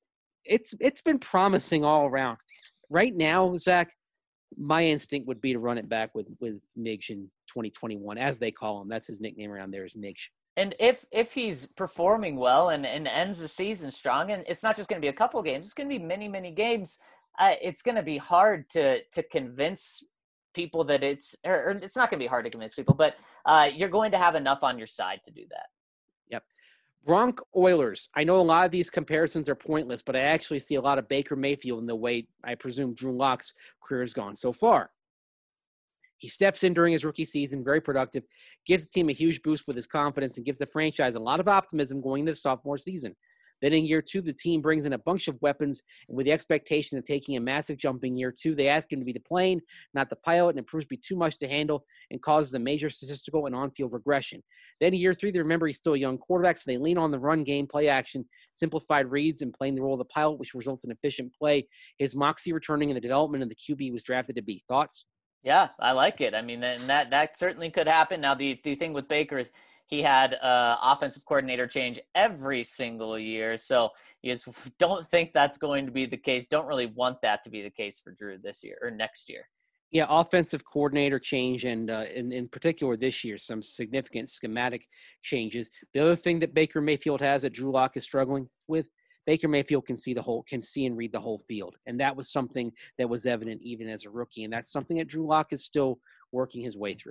It's been promising all around. Right now, Zach, my instinct would be to run it back with Midge in 2021, as they call him. That's his nickname around there, is Midge. And if he's performing well and ends the season strong, and it's not just going to be a couple games, it's going to be many, many games, it's going to be hard to convince people that it's not going to be hard to convince people, but you're going to have enough on your side to do that. Yep. Bronc Oilers. I know a lot of these comparisons are pointless, but I actually see a lot of Baker Mayfield in the way I presume Drew Lock's career has gone so far. He steps in during his rookie season, very productive, gives the team a huge boost with his confidence, and gives the franchise a lot of optimism going into the sophomore season. Then in year 2, the team brings in a bunch of weapons, and with the expectation of taking a massive jump in year 2, they ask him to be the plane, not the pilot, and it proves to be too much to handle and causes a major statistical and on-field regression. Then in year 3, they remember he's still a young quarterback, so they lean on the run game, play action, simplified reads, and playing the role of the pilot, which results in efficient play. His moxie returning in the development of the QB he was drafted to be. Thoughts? Yeah, I like it. I mean, that certainly could happen. Now, the thing with Baker is he had offensive coordinator change every single year. So you just don't think that's going to be the case. Don't really want that to be the case for Drew this year or next year. Yeah, offensive coordinator change and in particular this year, some significant schematic changes. The other thing that Baker Mayfield has that Drew Lock is struggling with, Baker Mayfield can see and read the whole field. And that was something that was evident even as a rookie. And that's something that Drew Lock is still working his way through.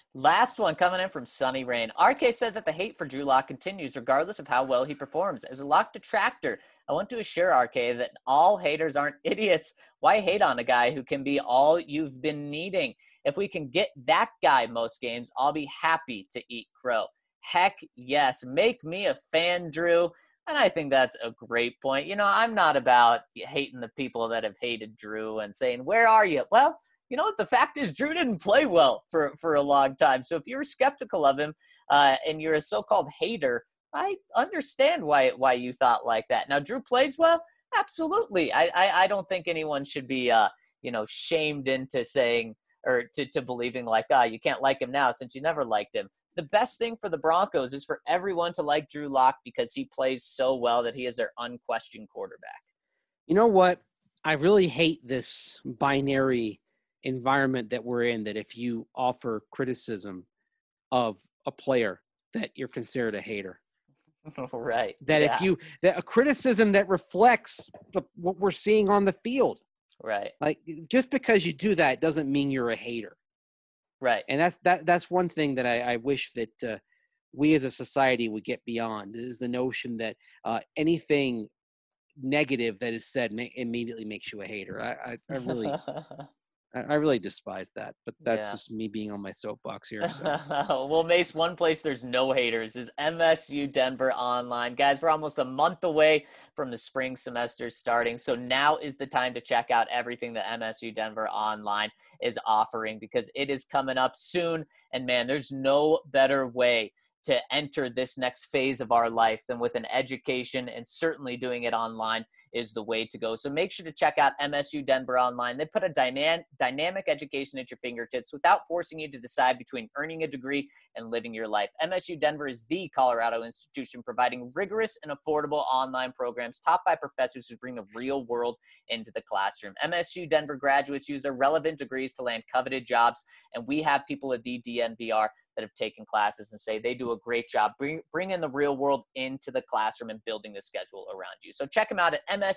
Last one coming in from Sunny Rain. RK said that the hate for Drew Lock continues regardless of how well he performs. As a Lock detractor, I want to assure RK that all haters aren't idiots. Why hate on a guy who can be all you've been needing? If we can get that guy most games, I'll be happy to eat crow. Heck yes. Make me a fan, Drew. And I think that's a great point. You know, I'm not about hating the people that have hated Drew and saying, where are you? Well, you know what? The fact is Drew didn't play well for a long time. So if you're skeptical of him and you're a so-called hater, I understand why you thought like that. Now, Drew plays well? Absolutely. I don't think anyone should be, shamed into saying or to believing like, you can't like him now since you never liked him. The best thing for the Broncos is for everyone to like Drew Lock because he plays so well that he is their unquestioned quarterback. You know what? I really hate this binary environment that we're in, that if you offer criticism of a player that you're considered a hater. Right. That that a criticism that reflects what we're seeing on the field. Right. Like, just because you do that doesn't mean you're a hater. Right. And that's one thing that I wish that we as a society would get beyond, is the notion that anything negative that is said immediately makes you a hater. I really despise that, but that's just me being on my soapbox here. So. Well, Mace, one place there's no haters is MSU Denver Online. Guys, we're almost a month away from the spring semester starting, so now is the time to check out everything that MSU Denver Online is offering because it is coming up soon, and man, there's no better way to enter this next phase of our life than with an education, and certainly doing it online is the way to go. So make sure to check out MSU Denver Online. They put a dynamic education at your fingertips without forcing you to decide between earning a degree and living your life. MSU Denver is the Colorado institution providing rigorous and affordable online programs taught by professors who bring the real world into the classroom. MSU Denver graduates use their relevant degrees to land coveted jobs, and we have people at the DNVR that have taken classes and say they do a great job bringing the real world into the classroom and building the schedule around you. So check them out at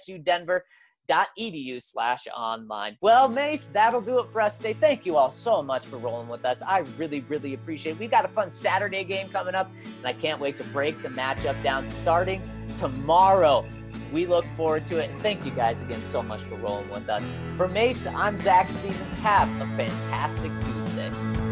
msudenver.edu/online. Well, Mace, that'll do it for us today. Thank you all so much for rolling with us. I really, really appreciate it. We've got a fun Saturday game coming up, and I can't wait to break the matchup down starting tomorrow. We look forward to it. And thank you guys again so much for rolling with us. For Mace, I'm Zach Stevens. Have a fantastic Tuesday.